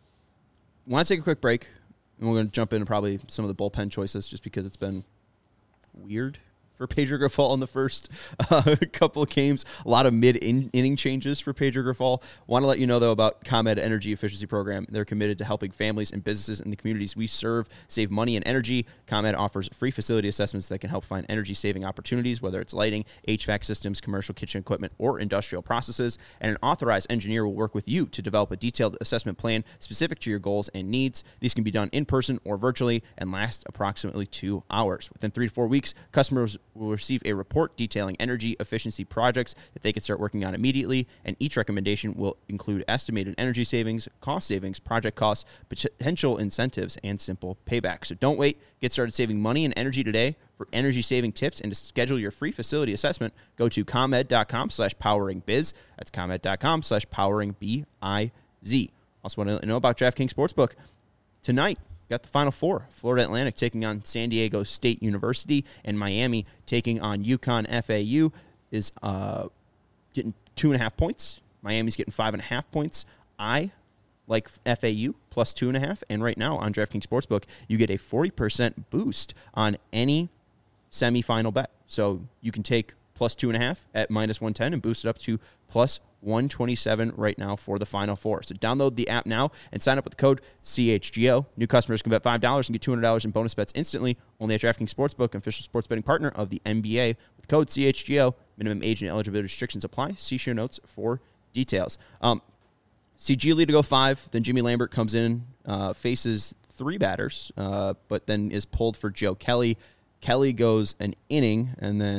want to take a quick break. And we're going to jump into probably some of the bullpen choices just because it's been weird for Pedro Grifol in the first uh, couple of games. A lot of mid-inning changes for Pedro Grifol. Want to let you know, though, about ComEd Energy Efficiency Program. They're committed to helping families and businesses in the communities we serve save money and energy. ComEd offers free facility assessments that can help find energy-saving opportunities, whether it's lighting, H V A C systems, commercial kitchen equipment, or industrial processes. And an authorized engineer will work with you to develop a detailed assessment plan specific to your goals and needs. These can be done in person or virtually and last approximately two hours. Within three to four weeks, customers will receive a report detailing energy efficiency projects that they can start working on immediately, and each recommendation will include estimated energy savings, cost savings, project costs, potential incentives, and simple payback. So don't wait. Get started saving money and energy today. For energy-saving tips and to schedule your free facility assessment, go to ComEd.com slash poweringbiz. That's ComEd.com slash poweringbiz. Also want to let you know about DraftKings Sportsbook. Tonight, got the Final Four. Florida Atlantic taking on San Diego State University, and Miami taking on UConn F A U is uh, getting two and a half points. Miami's getting five and a half points. I like F A U plus two and a half, and right now on DraftKings Sportsbook, you get a forty percent boost on any semifinal bet. So you can take plus two and a half at minus one ten and boost it up to plus one twenty-seven right now for the Final Four. So download the app now and sign up with the code C H G O. New customers can bet five dollars and get two hundred dollars in bonus bets instantly. Only at DraftKings Sportsbook, official sports betting partner of the N B A. With code C H G O, minimum age and eligibility restrictions apply. See show notes for details. Um, see Giolito to go five. Then Jimmy Lambert comes in, uh, faces three batters, uh, but then is pulled for Joe Kelly. Kelly goes an inning, and then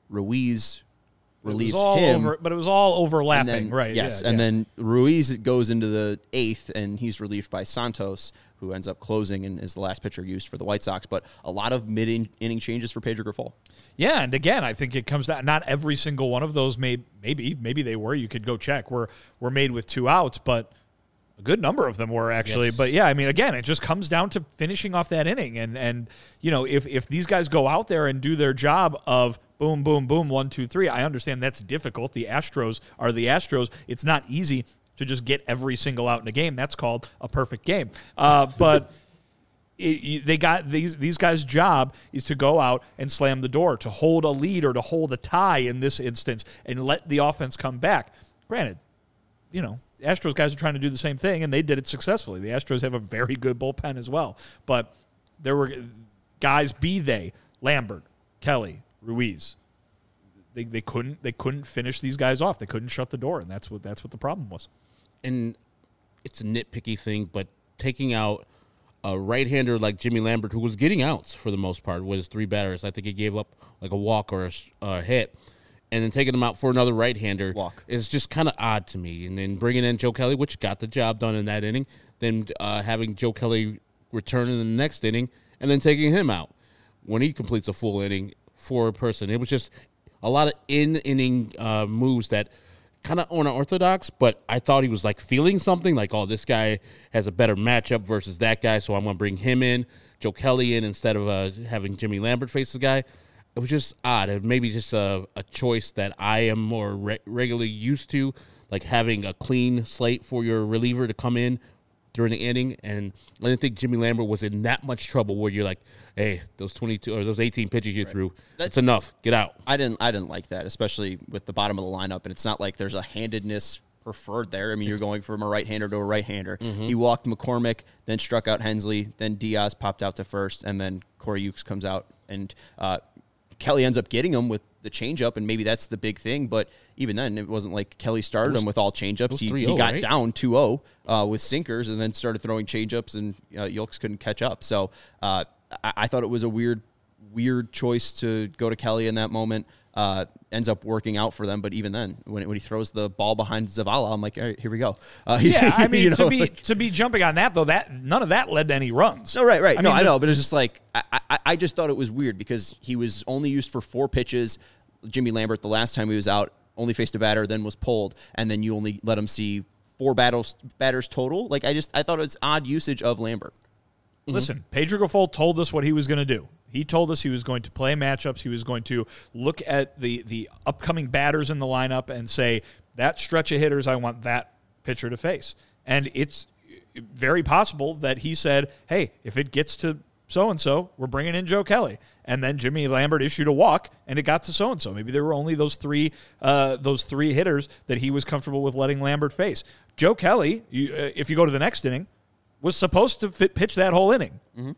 Ruiz relieves it was all him. over, but it was all overlapping, And then, right? Yes, yeah, and yeah. then Ruiz goes into the eighth, and he's relieved by Santos, who ends up closing and is the last pitcher used for the White Sox. But a lot of mid-inning changes for Pedro Grifol. Yeah, and again, I think it comes down. Not every single one of those may maybe maybe they were. You could go check. Were were made with two outs, but a good number of them were actually. Yes. But yeah, I mean, again, it just comes down to finishing off that inning, and and you know, if if these guys go out there and do their job of boom, boom, boom, one, two, three, I understand that's difficult. The Astros are the Astros. It's not easy to just get every single out in a game. That's called a perfect game. Uh, but. It, they got these these guys' job is to go out and slam the door, to hold a lead or to hold a tie in this instance, and let the offense come back. Granted, you know, the Astros guys are trying to do the same thing, and they did it successfully. The Astros have a very good bullpen as well. But there were guys, be they Lambert, Kelly, Ruiz. They they couldn't they couldn't finish these guys off. They couldn't shut the door, and that's what that's what the problem was. And it's a nitpicky thing, but taking out a right-hander like Jimmy Lambert, who was getting outs for the most part with his three batters. I think he gave up like a walk or a, a hit. And then taking him out for another right-hander Walk. is just kind of odd to me. And then bringing in Joe Kelly, which got the job done in that inning. Then uh, having Joe Kelly return in the next inning and then taking him out when he completes a full inning for a person. It was just a lot of in-inning uh, moves that kind of unorthodox, but I thought he was like feeling something like, oh, this guy has a better matchup versus that guy, so I'm going to bring him in, Joe Kelly in instead of uh, having Jimmy Lambert face the guy. It was just odd. It maybe just a, a choice that I am more re- regularly used to, like having a clean slate for your reliever to come in during the inning. And I didn't think Jimmy Lambert was in that much trouble where you're like, hey, those twenty-two or those eighteen pitches you right. threw, that's enough. Get out. I didn't I didn't like that, especially with the bottom of the lineup. And it's not like there's a handedness preferred there. I mean, you're going from a right-hander to a right-hander. Mm-hmm. He walked McCormick, then struck out Hensley, then Diaz popped out to first, and then Corey Ukes comes out. And uh, Kelly ends up getting him with the changeup, and maybe that's the big thing. But even then, it wasn't like Kelly started was, him with all changeups. He, he got right? down two oh uh, with sinkers and then started throwing changeups, and uh, Ukes couldn't catch up. So uh, I, I thought it was a weird, weird choice to go to Kelly in that moment. Uh, ends up working out for them, but even then, when when he throws the ball behind Zavala, I'm like, all right, here we go. Uh, yeah, I mean, you know, to be like, to be jumping on that though, that none of that led to any runs. No, right, right. I no, mean, I the, know, but it's just like I, I, I just thought it was weird because he was only used for four pitches. Jimmy Lambert, the last time he was out, only faced a batter, then was pulled, and then you only let him see four battles batters total. Like I just I thought it was odd usage of Lambert. Listen, Pedro Grifol told us what he was going to do. He told us he was going to play matchups. He was going to look at the, the upcoming batters in the lineup and say, that stretch of hitters, I want that pitcher to face. And it's very possible that he said, hey, if it gets to so-and-so, we're bringing in Joe Kelly. And then Jimmy Lambert issued a walk, and it got to so-and-so. Maybe there were only those three uh, those three hitters that he was comfortable with letting Lambert face. Joe Kelly, you, uh, if you go to the next inning, was supposed to fit, pitch that whole inning. Mm-hmm.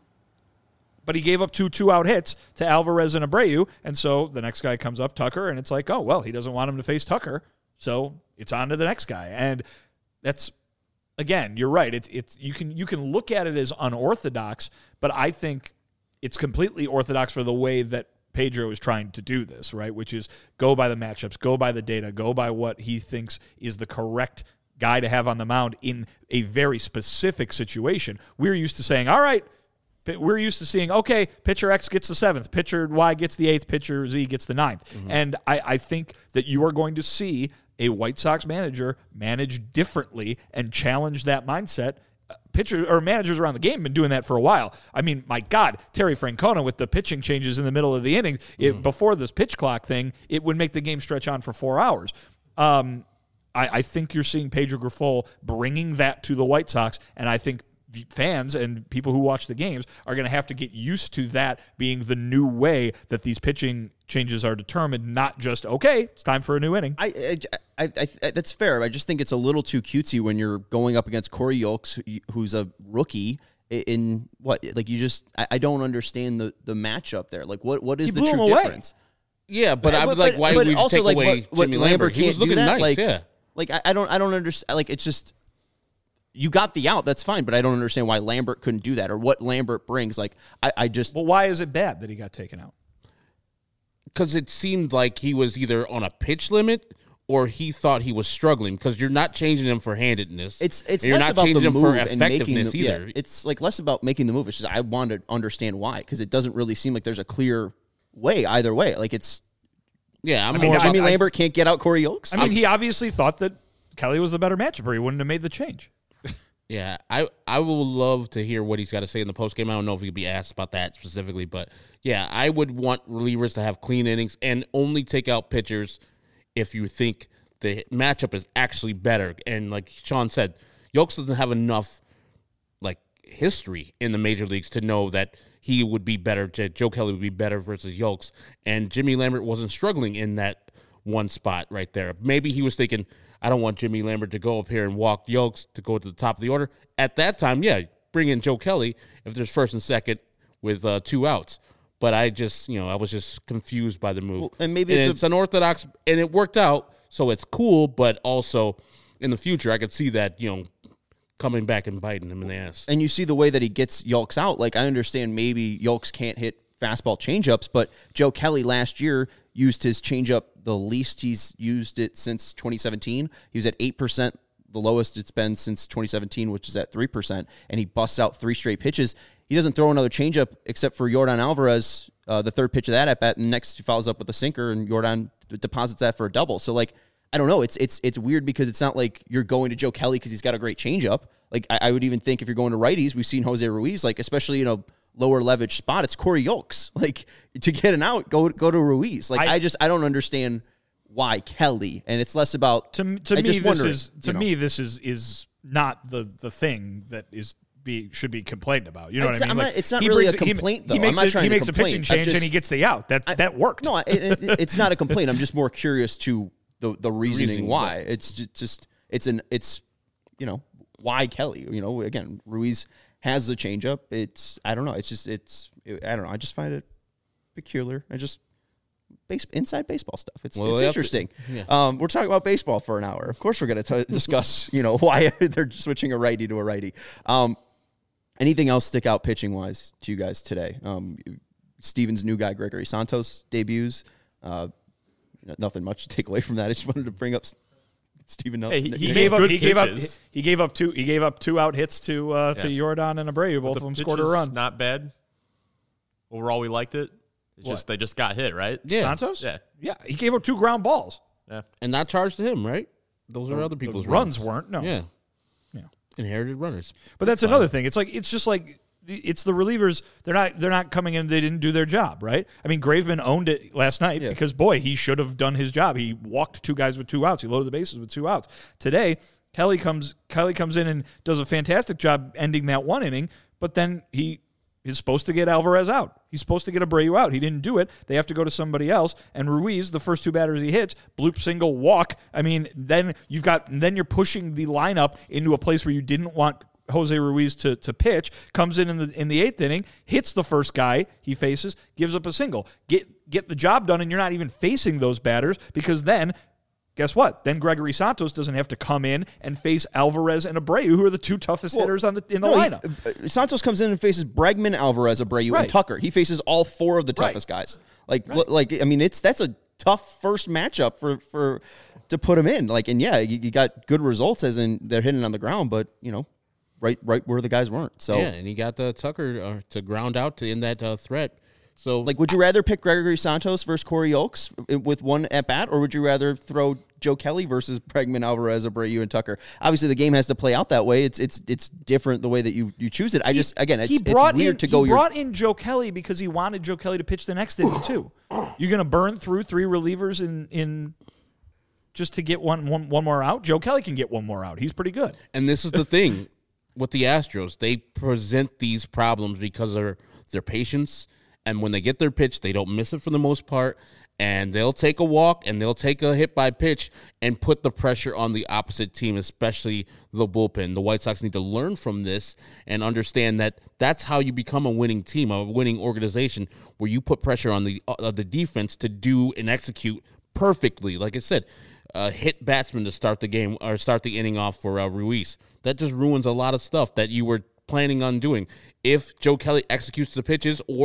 But he gave up two two-out hits to Alvarez and Abreu, and so the next guy comes up, Tucker, and it's like, oh, well, he doesn't want him to face Tucker, so it's on to the next guy. And that's, again, you're right. It's it's you can you can look at it as unorthodox, but I think it's completely orthodox for the way that Pedro is trying to do this, right, which is go by the matchups, go by the data, go by what he thinks is the correct guy to have on the mound in a very specific situation. We're used to saying, all right, we're used to seeing, okay, pitcher X gets the seventh, pitcher Y gets the eighth, pitcher Z gets the ninth. Mm-hmm. And I, I think that you are going to see a White Sox manager manage differently and challenge that mindset. Pitchers or managers around the game have been doing that for a while. I mean, my God, Terry Francona with the pitching changes in the middle of the innings, it, mm-hmm. before this pitch clock thing, it would make the game stretch on for four hours. Um, I, I think you're seeing Pedro Grifol bringing that to the White Sox, and I think fans and people who watch the games are going to have to get used to that being the new way that these pitching changes are determined, not just, okay, it's time for a new inning. I, I, I, I that's fair. I just think it's a little too cutesy when you're going up against Corey Ukes, who's a rookie. In what, like you just, I, I don't understand the, the matchup there. Like, what, what is he the blew true him away. difference? Yeah, but, but I would like, why would we just take like, away what, Jimmy what Lambert? He was looking nice, like, yeah. Like, I, I don't, I don't understand. Like, it's just, you got the out, that's fine, but I don't understand why Lambert couldn't do that or what Lambert brings. Like, I, I just. Well, why is it bad that he got taken out? because it seemed like he was either on a pitch limit or he thought he was struggling, because you're not changing him for handedness. It's it's and you're less not about changing the him move for and making effectiveness the, either. Yeah, it's like less about making the move. It's just I want to understand why, because it doesn't really seem like there's a clear way either way. Like it's yeah, I'm I mean, more Jimmy about, Lambert can't get out Corey Yolks. I mean, he obviously thought that Kelly was the better matchup, or he wouldn't have made the change. Yeah, I, I will love to hear what he's got to say in the postgame. I don't know if he could be asked about that specifically, but yeah, I would want relievers to have clean innings and only take out pitchers if you think the matchup is actually better. And like Sean said, Yolks doesn't have enough like history in the major leagues to know that he would be better, Joe Kelly would be better versus Yolks. And Jimmy Lambert wasn't struggling in that one spot right there. Maybe he was thinking, I don't want Jimmy Lambert to go up here and walk Yolks to go to the top of the order. At that time, yeah, bring in Joe Kelly if there's first and second with uh, two outs. But I just, you know, I was just confused by the move. Well, and maybe and it's, it's a, unorthodox, and it worked out, so it's cool. But also, in the future, I could see that, you know, coming back and biting him in the ass. and you see the way that he gets Yolks out. Like I understand maybe Yolks can't hit fastball changeups, but Joe Kelly last year used his changeup the least he's used it since twenty seventeen. He was at eight percent, the lowest it's been since twenty seventeen, which is at three percent, and he busts out three straight pitches. He doesn't throw another changeup except for Yordan Alvarez, uh, the third pitch of that at bat, and next he follows up with a sinker, and Yordan deposits that for a double. So, like, I don't know. It's it's it's weird because it's not like you're going to Joe Kelly because he's got a great changeup. Like, I, I would even think if you're going to righties, we've seen Jose Ruiz, like, especially in a lower leverage spot, it's Corey Yolks. Like, to get an out, go go to Ruiz. Like, I, I just I don't understand why Kelly, and it's less about To to I me, just this wonder, is to you know. me this is is not the the thing that is be should be complained about. You know It's- what I mean? I'm Like, not- it's not he really a brings- he- complaint, he, though. I'm makes not a, trying he to makes a complain. pitching I change and just- he gets the out. That I- that worked. No, it, it, it's not a complaint. I'm just more curious to the the reasoning reasoning, why. It's ju- just it's an it's you know why Kelly. You know, again, Ruiz has the changeup. It's I don't know. It's just it's I don't know. I just find it peculiar. I just base inside baseball stuff. It's Well, it's they have to- interesting. yeah. Um, we're talking about baseball for an hour. Of course, we're going to discuss you know why they're switching a righty to a righty. Um, anything else stick out pitching wise to you guys today? Um, Steven's new guy Gregory Santos debuts. Uh, nothing much to take away from that. I just wanted to bring up Steven. Hey, he- He He gave made up. good He gave up. pitches. He gave up two. He gave up two out hits to uh, to Yeah. Yordan and Abreu. Both The of them scored a pitches, run. Not bad. Overall, we liked it. It's What? just they just got hit, right? Yeah, Santos. Yeah. yeah. He gave up two ground balls. Yeah. and not charged to him, right? Those are other people's runs weren't. No. Yeah, Yeah. inherited runners. But that's another thing. It's like it's just like it's the relievers. They're not they're not coming in. They didn't do their job, right? I mean, Graveman owned it last night Yeah. because boy, he should have done his job. He walked two guys with two outs. He loaded the bases with two outs. Today, Kelly comes Kelly comes in and does a fantastic job ending that one inning. But then he is supposed to get Alvarez out. He's supposed to get Abreu out. He didn't do it. They have to go to somebody else. And Ruiz, the first two batters he hits, bloop single, walk. I mean, then you've got then you're pushing the lineup into a place where you didn't want Jose Ruiz to to pitch. Comes in in the in the eighth inning, hits the first guy he faces, gives up a single. Get get the job done, and you're not even facing those batters because then. Guess what? Then Gregory Santos doesn't have to come in and face Alvarez and Abreu, who are the two toughest Well, hitters on the in the No, he- lineup. uh, Santos comes in and faces Bregman, Alvarez, Abreu, Right. and Tucker. He faces all four of the Right. toughest guys. Like, l- like I mean, it's that's a tough first matchup for for to put him in. Like, and yeah, you, you got good results as in they're hitting on the ground, but you know, right right where the guys weren't. So, Yeah, and he got the Tucker uh, to ground out to end that uh, threat. So, like, would you rather pick Gregory Santos versus Corey Yolks with one at bat, or would you rather throw Joe Kelly versus Bregman, Alvarez, Abreu, and Tucker? Obviously, the game has to play out that way. It's it's it's different the way that you, you choose it. I just again, it's, he it's brought weird in, to go. He your, brought in Joe Kelly because he wanted Joe Kelly to pitch the next inning too. You're going to burn through three relievers in in just to get one, one one more out. Joe Kelly can get one more out. He's pretty good. and this is the thing with the Astros. They present these problems because of their, their patience. And when they get their pitch, they don't miss it for the most part. And they'll take a walk and they'll take a hit by pitch and put the pressure on the opposite team, especially the bullpen. The White Sox need to learn from this and understand that that's how you become a winning team, a winning organization, where you put pressure on the uh, the defense to do and execute perfectly. Like I said, uh, hit batsman to start the game or start the inning off for uh, Ruiz. That just ruins a lot of stuff that you were planning on doing. If Joe Kelly executes the pitches or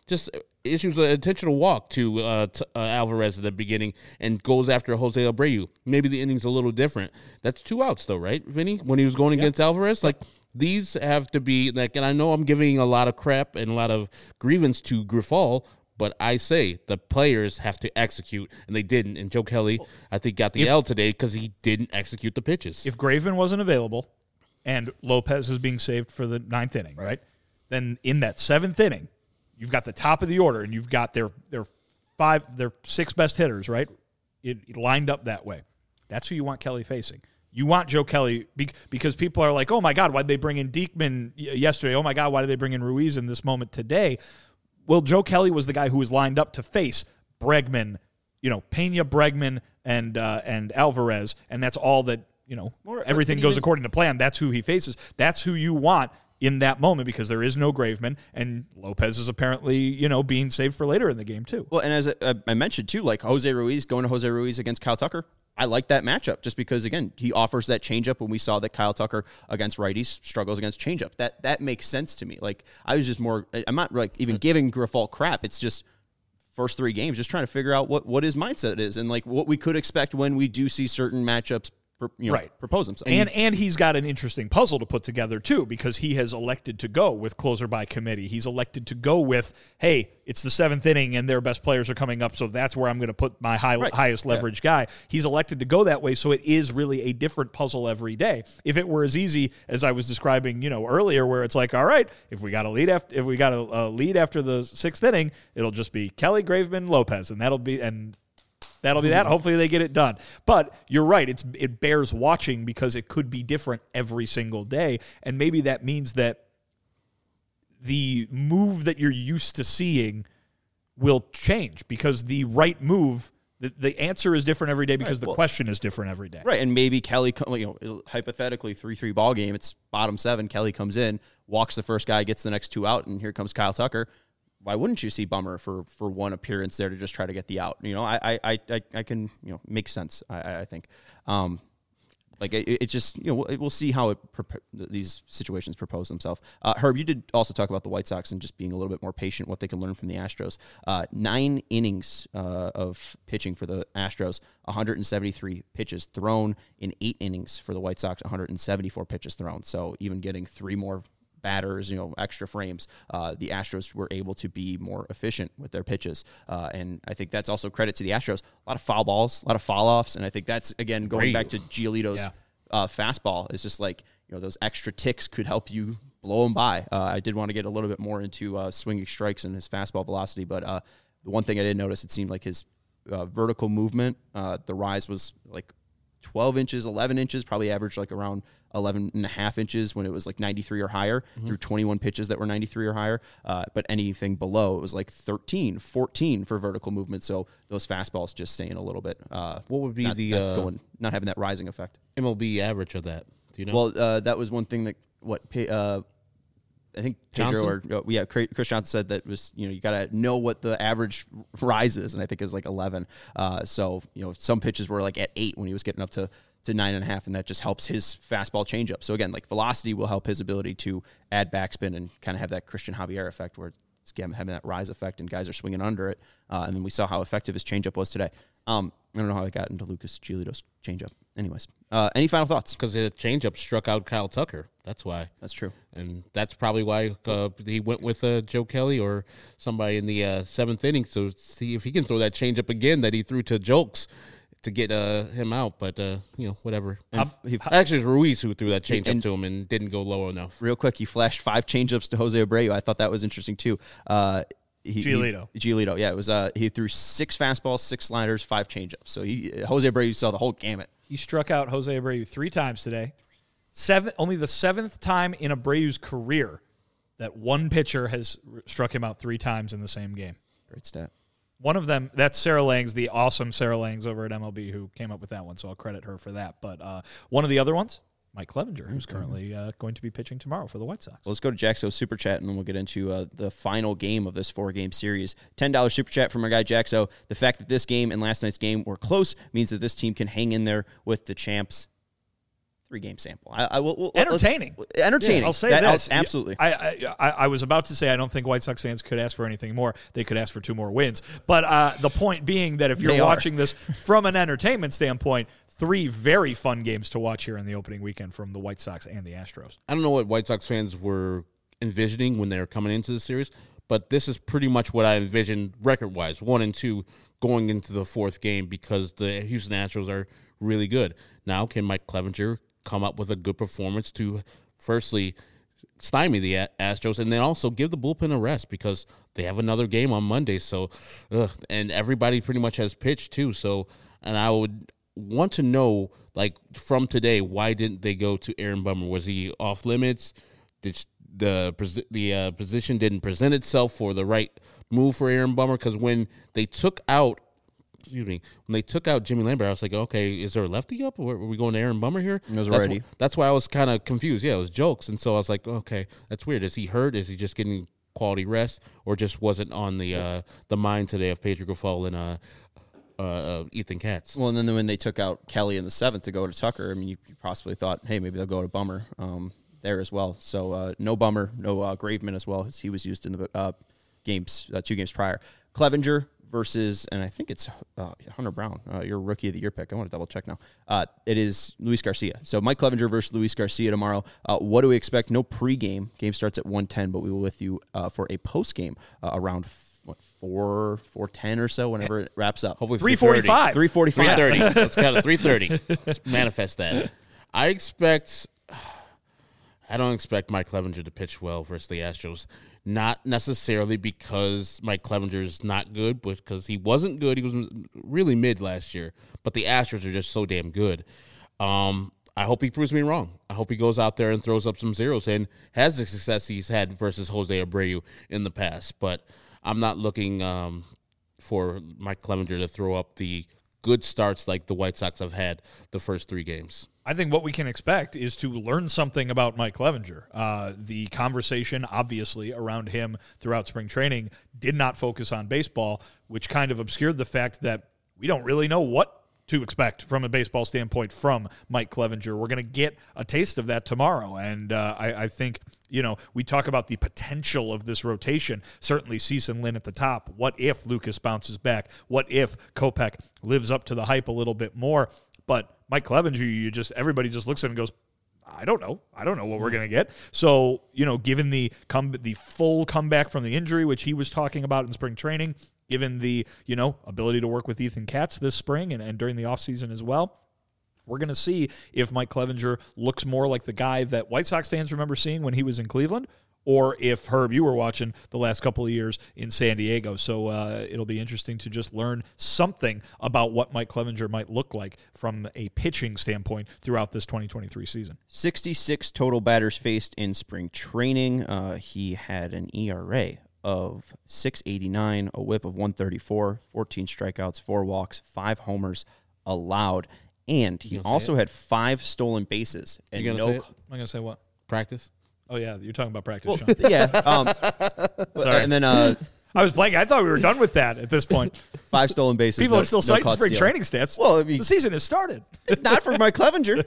just issues an intentional walk to uh, t- uh, Alvarez at the beginning and goes after Jose Abreu. Maybe the inning's a little different. That's two outs, though, right, Vinny? When he was going yeah. against Alvarez, like these have to be like. And I know I'm giving a lot of crap and a lot of grievance to Grifol, but I say the players have to execute, and they didn't. And Joe Kelly, I think, got the if, L today because he didn't execute the pitches. If Graveman wasn't available and Lopez is being saved for the ninth inning, right, then in that seventh inning, you've got the top of the order, and you've got their their five, their six best hitters, right, it, it lined up that way. That's who you want Kelly facing. You want Joe Kelly because people are like, oh, my God, why did they bring in Diekman yesterday? Oh, my God, why did they bring in Ruiz in this moment today? Well, Joe Kelly was the guy who was lined up to face Bregman, you know, Pena, Bregman, and uh, and Alvarez, and that's all that, you know, More, everything goes even, according to plan. That's who he faces. That's who you want in that moment because there is no Graveman, and Lopez is apparently, you know, being saved for later in the game, too. Well, and as I, I mentioned, too, like Jose Ruiz, going to Jose Ruiz against Kyle Tucker, I like that matchup just because, again, he offers that changeup when we saw that Kyle Tucker against righties struggles against changeup. That that makes sense to me. Like, I was just more, I'm not like even giving Grifol crap. It's just first three games, just trying to figure out what, what his mindset is and like what we could expect when we do see certain matchups you know, right. propose himself. And and he's got an interesting puzzle to put together, too, because he has elected to go with closer by committee. He's elected to go with, hey, it's the seventh inning and their best players are coming up, so that's where I'm going to put my high, right. highest leverage yeah. guy. He's elected to go that way, so it is really a different puzzle every day. If it were as easy as I was describing, you know, earlier, where it's like, all right, if we got a lead after, if we got a, a lead after the sixth inning, it'll just be Kelly, Graveman, Lopez, and that'll be and. That'll be that. Hopefully they get it done. But you're right. It's it bears watching because it could be different every single day. And maybe that means that the move that you're used to seeing will change because the right move, the, the answer is different every day because right. well, the question is different every day. Right. And maybe Kelly, you know, hypothetically, three three ball game, it's bottom seven. Kelly comes in, walks the first guy, gets the next two out, and here comes Kyle Tucker. Why wouldn't you see Bummer for, for one appearance there to just try to get the out? You know, I I I, I can you know make sense. I I think, um, like it, it's just you know we'll, we'll see how it these situations propose themselves. Uh, Herb, you did also talk about the White Sox and just being a little bit more patient, what they can learn from the Astros. Uh, nine innings uh, of pitching for the Astros, one hundred seventy-three pitches thrown in eight innings for the White Sox, one hundred seventy-four pitches thrown. So even getting three more batters, you know, extra frames, uh, the Astros were able to be more efficient with their pitches. Uh, and I think that's also credit to the Astros. A lot of foul balls, a lot of foul offs. And I think that's, again, going back to Giolito's yeah. uh, fastball. It's just like, you know, those extra ticks could help you blow them by. Uh, I did want to get a little bit more into uh, swinging strikes and his fastball velocity. But uh, the one thing I did notice, it seemed like his uh, vertical movement, uh, the rise was like twelve inches, eleven inches, probably averaged like around eleven and a half inches when it was like ninety-three or higher mm-hmm. through twenty-one pitches that were ninety-three or higher. Uh, but anything below, it was like thirteen, fourteen for vertical movement. So those fastballs just staying a little bit. Uh, what would be not, the not, uh, going, not having that rising effect? M L B average of that? Do you know? Well, uh, that was one thing that what uh, I think Pedro or uh, yeah, Chris Johnson said that was you know you got to know what the average rise is, and I think it was like eleven. Uh, so you know some pitches were like at eight when he was getting up to. to nine and a half, and that just helps his fastball changeup. So again, like velocity will help his ability to add backspin and kind of have that Christian Javier effect where it's again, having that rise effect and guys are swinging under it. Uh, and then we saw how effective his changeup was today. Um, I don't know how I got into Lucas Giolito's changeup. Anyways, uh, any final thoughts? Because the changeup struck out Kyle Tucker. That's why. That's true. And that's probably why uh, he went with uh, Joe Kelly or somebody in the uh, seventh inning to see if he can throw that changeup again that he threw to Jolks to get uh, him out, but uh, you know, whatever. And he, actually, it was Ruiz who threw that changeup to him and didn't go low enough. Real quick, he flashed five changeups to Jose Abreu. I thought that was interesting too. Uh, he, Giolito. He, Giolito, yeah, it was. Uh, he threw six fastballs, six sliders, five changeups. So he, Jose Abreu saw the whole gamut. He struck out Jose Abreu three times today. Seven, only the seventh time in Abreu's career that one pitcher has struck him out three times in the same game. Great stat. One of them, that's Sarah Langs, the awesome Sarah Langs over at M L B who came up with that one, so I'll credit her for that. But uh, one of the other ones, Mike Clevenger, who's currently uh, going to be pitching tomorrow for the White Sox. Well, let's go to Jaxo Super Chat, and then we'll get into uh, the final game of this four-game series. ten dollars Super Chat from our guy Jaxo. The fact that this game and last night's game were close means that this team can hang in there with the champs. three game sample. I, I will we'll, entertaining, entertaining. Yeah, I'll say that, this I'll, absolutely. I, I I was about to say I don't think White Sox fans could ask for anything more. They could ask for two more wins. But uh, the point being that if you're They are. watching this from an entertainment standpoint, three very fun games to watch here in the opening weekend from the White Sox and the Astros. I don't know what White Sox fans were envisioning when they were coming into the series, but this is pretty much what I envisioned record-wise, one and two going into the fourth game because the Houston Astros are really good. Now, can Mike Clevenger come up with a good performance to, firstly, stymie the Astros and then also give the bullpen a rest because they have another game on Monday. So, ugh, and everybody pretty much has pitched too. So, and I would want to know, like, from today, why didn't they go to Aaron Bummer? Was he off limits? Did the the uh, position didn't present itself for the right move for Aaron Bummer? Because when they took out Excuse me. When they took out Jimmy Lambert, I was like, okay, is there a lefty up? Or are we going to Aaron Bummer here? It was that's already. Wh- that's why I was kind of confused. Yeah, it was jokes. And so I was like, okay, that's weird. Is he hurt? Is he just getting quality rest? Or just wasn't on the uh, the mind today of Pedro Grifol and uh, uh, uh, Ethan Katz? Well, and then when they took out Kelly in the seventh to go to Tucker, I mean, you, you possibly thought, hey, maybe they'll go to Bummer um, there as well. So uh, no Bummer, no uh, Graveman as well, as he was used in the uh, games, uh, two games prior. Clevenger versus, and I think it's uh, Hunter Brown, uh, your rookie of the year pick. I want to double check now. Uh, it is Luis Garcia. So Mike Clevenger versus Luis Garcia tomorrow. Uh, what do we expect? No pregame. Game starts at one ten, but we will with you uh, for a postgame uh, around what, four four ten or so, whenever it wraps up. Hopefully three forty-five. three forty-five. three thirty. Let's count it three thirty. Let's manifest that. I expect I don't expect Mike Clevenger to pitch well versus the Astros. Not necessarily because Mike Clevenger is not good, but because he wasn't good. He was really mid last year. But the Astros are just so damn good. Um, I hope he proves me wrong. I hope he goes out there and throws up some zeros and has the success he's had versus Jose Abreu in the past. But I'm not looking um, for Mike Clevenger to throw up the good starts like the White Sox have had the first three games. I think what we can expect is to learn something about Mike Clevenger. Uh, the conversation, obviously, around him throughout spring training did not focus on baseball, which kind of obscured the fact that we don't really know what to expect from a baseball standpoint from Mike Clevenger. We're going to get a taste of that tomorrow, and uh, I, I think, you know, we talk about the potential of this rotation. Certainly Cease and Lynn at the top. What if Lucas bounces back? What if Kopech lives up to the hype a little bit more? But Mike Clevenger, you just everybody just looks at him and goes, I don't know. I don't know what we're going to get. So, you know, given the come the full comeback from the injury, which he was talking about in spring training, given the, you know, ability to work with Ethan Katz this spring and, and during the offseason as well, we're going to see if Mike Clevenger looks more like the guy that White Sox fans remember seeing when he was in Cleveland, or if, Herb, you were watching the last couple of years in San Diego. So uh, it'll be interesting to just learn something about what Mike Clevenger might look like from a pitching standpoint throughout this twenty twenty-three season. sixty-six total batters faced in spring training. Uh, he had an E R A of six eighty-nine, a whip of one thirty-four, fourteen strikeouts, four walks, five homers allowed, and he also had five stolen bases. And You gonna no, say it? Am I going to say what? Practice? Oh, yeah, you're talking about practice, well, Sean. yeah. Um, but, Sorry. and then uh, I was blanking. I thought we were done with that at this point. five stolen bases. People no, are still no citing caught spring stealing. training stats. Well, I mean, the season has started. not for Mike Clevenger.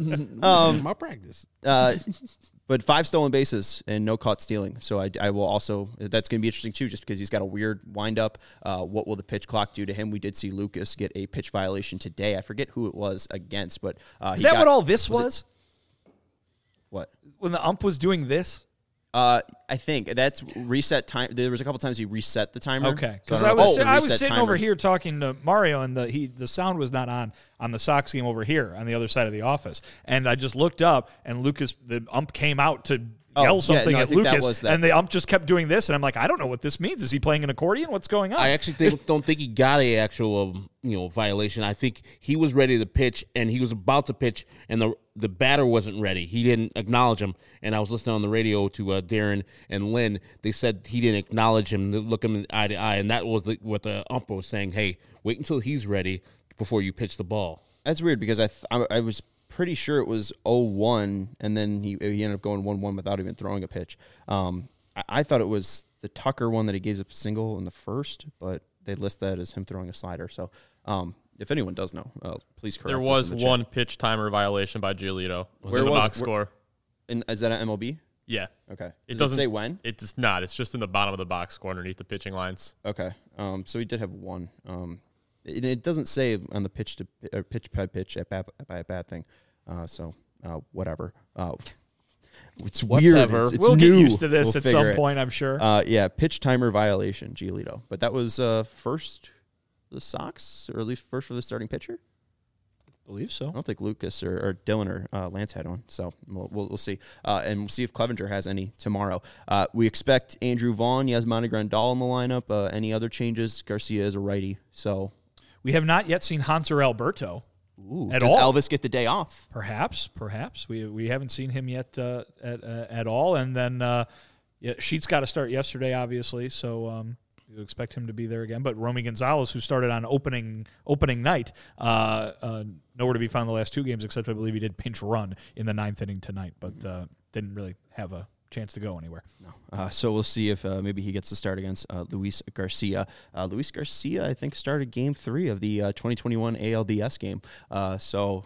Um, My practice. Uh, but five stolen bases and no caught stealing. So I, I will also, that's going to be interesting too, just because he's got a weird windup. Uh, what will the pitch clock do to him? We did see Lucas get a pitch violation today. I forget who it was against, but uh, Is he that got- what all this was it- was? What? When the ump was doing this? Uh, I think that's reset time. There was a couple times he reset the timer. Okay, So because don't I know if was it's the I was reset sitting timer. over here talking to Mario, and the he the sound was not on on the Sox game over here on the other side of the office, and I just looked up, and Lucas, the ump, came out to Oh, yell yeah, something no, I at think that Lucas, was that. and the ump just kept doing this, and I'm like, I don't know what this means. Is he playing an accordion? What's going on? I actually think, don't think he got a actual um, you know violation. I think he was ready to pitch, and he was about to pitch, and the the batter wasn't ready. He didn't acknowledge him, and I was listening on the radio to uh, Darren and Lynn. They said he didn't acknowledge him, look him eye to eye, and that was the, what the ump was saying. Hey, wait until he's ready before you pitch the ball. That's weird because I th- I, I was pretty sure it was oh one, and then he he ended up going one one without even throwing a pitch. Um, I, I thought it was the Tucker one that he gave up a single in the first, but they list that as him throwing a slider. So, um, If anyone does know, uh, please correct There us was in the chat. one pitch timer violation by Giolito. Was Where in the was- box where- score. In, is that an M L B? Yeah. Okay. It Does doesn't it say when? It does not. It's just in the bottom of the box score underneath the pitching lines. Okay. Um, so he did have one. Um, it, it doesn't say on the pitch to or pitch by pitch at bat by a bad thing. Uh, so uh, whatever. Uh, it's weird. Whatever. It's, it's we'll new. get used to this We'll at figure some it. point, I'm sure. Uh, yeah, pitch timer violation, Giolito. But that was uh, first for the Sox, or at least first for the starting pitcher. believe so. I don't think Lucas or, or Dylan or uh, Lance had one, so we'll, we'll, we'll see. Uh, and we'll see if Clevenger has any tomorrow. Uh, we expect Andrew Vaughn, Yasmani Grandal in the lineup. Uh, any other changes? Garcia is a righty, so. We have not yet seen Hanser Alberto. Ooh, At does all? Elvis get the day off? Perhaps, perhaps. We we haven't seen him yet uh, at uh, at all. And then uh, yeah, Sheets got to start yesterday, obviously, so um, you expect him to be there again. But Romy Gonzalez, who started on opening opening night, uh, uh, nowhere to be found the last two games, except I believe he did pinch run in the ninth inning tonight, but uh, didn't really have a chance to go anywhere. No. Uh, so we'll see if uh, maybe he gets to start against uh, Luis Garcia. Uh, Luis Garcia, I think, started game three of the uh, twenty twenty-one A L D S game. Uh, so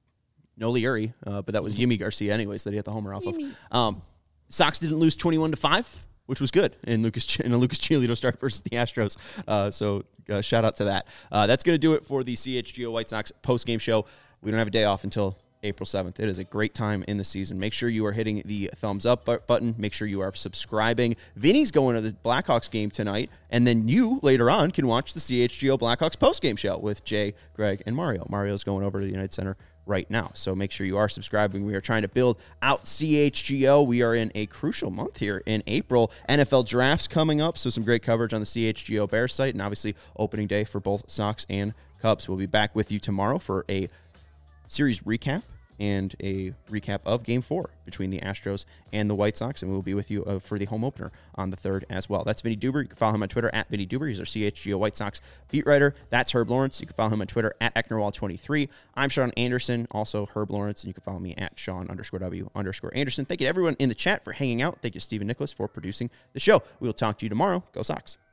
no Liuri, uh, but that was Yimi Garcia anyways that he had the homer off of. Um, Sox didn't lose twenty-one to five, which was good in Lucas in a Lucas Giolito start versus the Astros. Uh, so uh, shout out to that. Uh, that's going to do it for the C H G O White Sox post game show. We don't have a day off until April seventh. It is a great time in the season. Make sure you are hitting the thumbs up button. Make sure you are subscribing. Vinny's going to the Blackhawks game tonight, and then you later on can watch the C H G O Blackhawks post-game show with Jay, Greg, and Mario. Mario's going over to the United Center right now, so make sure you are subscribing. We are trying to build out C H G O. We are in a crucial month here in April. N F L drafts coming up, so some great coverage on the C H G O Bears site, and obviously opening day for both Sox and Cubs. We'll be back with you tomorrow for a series recap and a recap of Game four between the Astros and the White Sox, and we will be with you uh, for the home opener on the third as well. That's Vinny Duber. You can follow him on Twitter at Vinny Duber. He's our C H G O White Sox beat writer. That's Herb Lawrence. You can follow him on Twitter at Ecknerwall twenty-three. I'm Sean Anderson, also Herb Lawrence, and you can follow me at Sean underscore W underscore Anderson. Thank you to everyone in the chat for hanging out. Thank you to Stephen Nicholas for producing the show. We will talk to you tomorrow. Go Sox.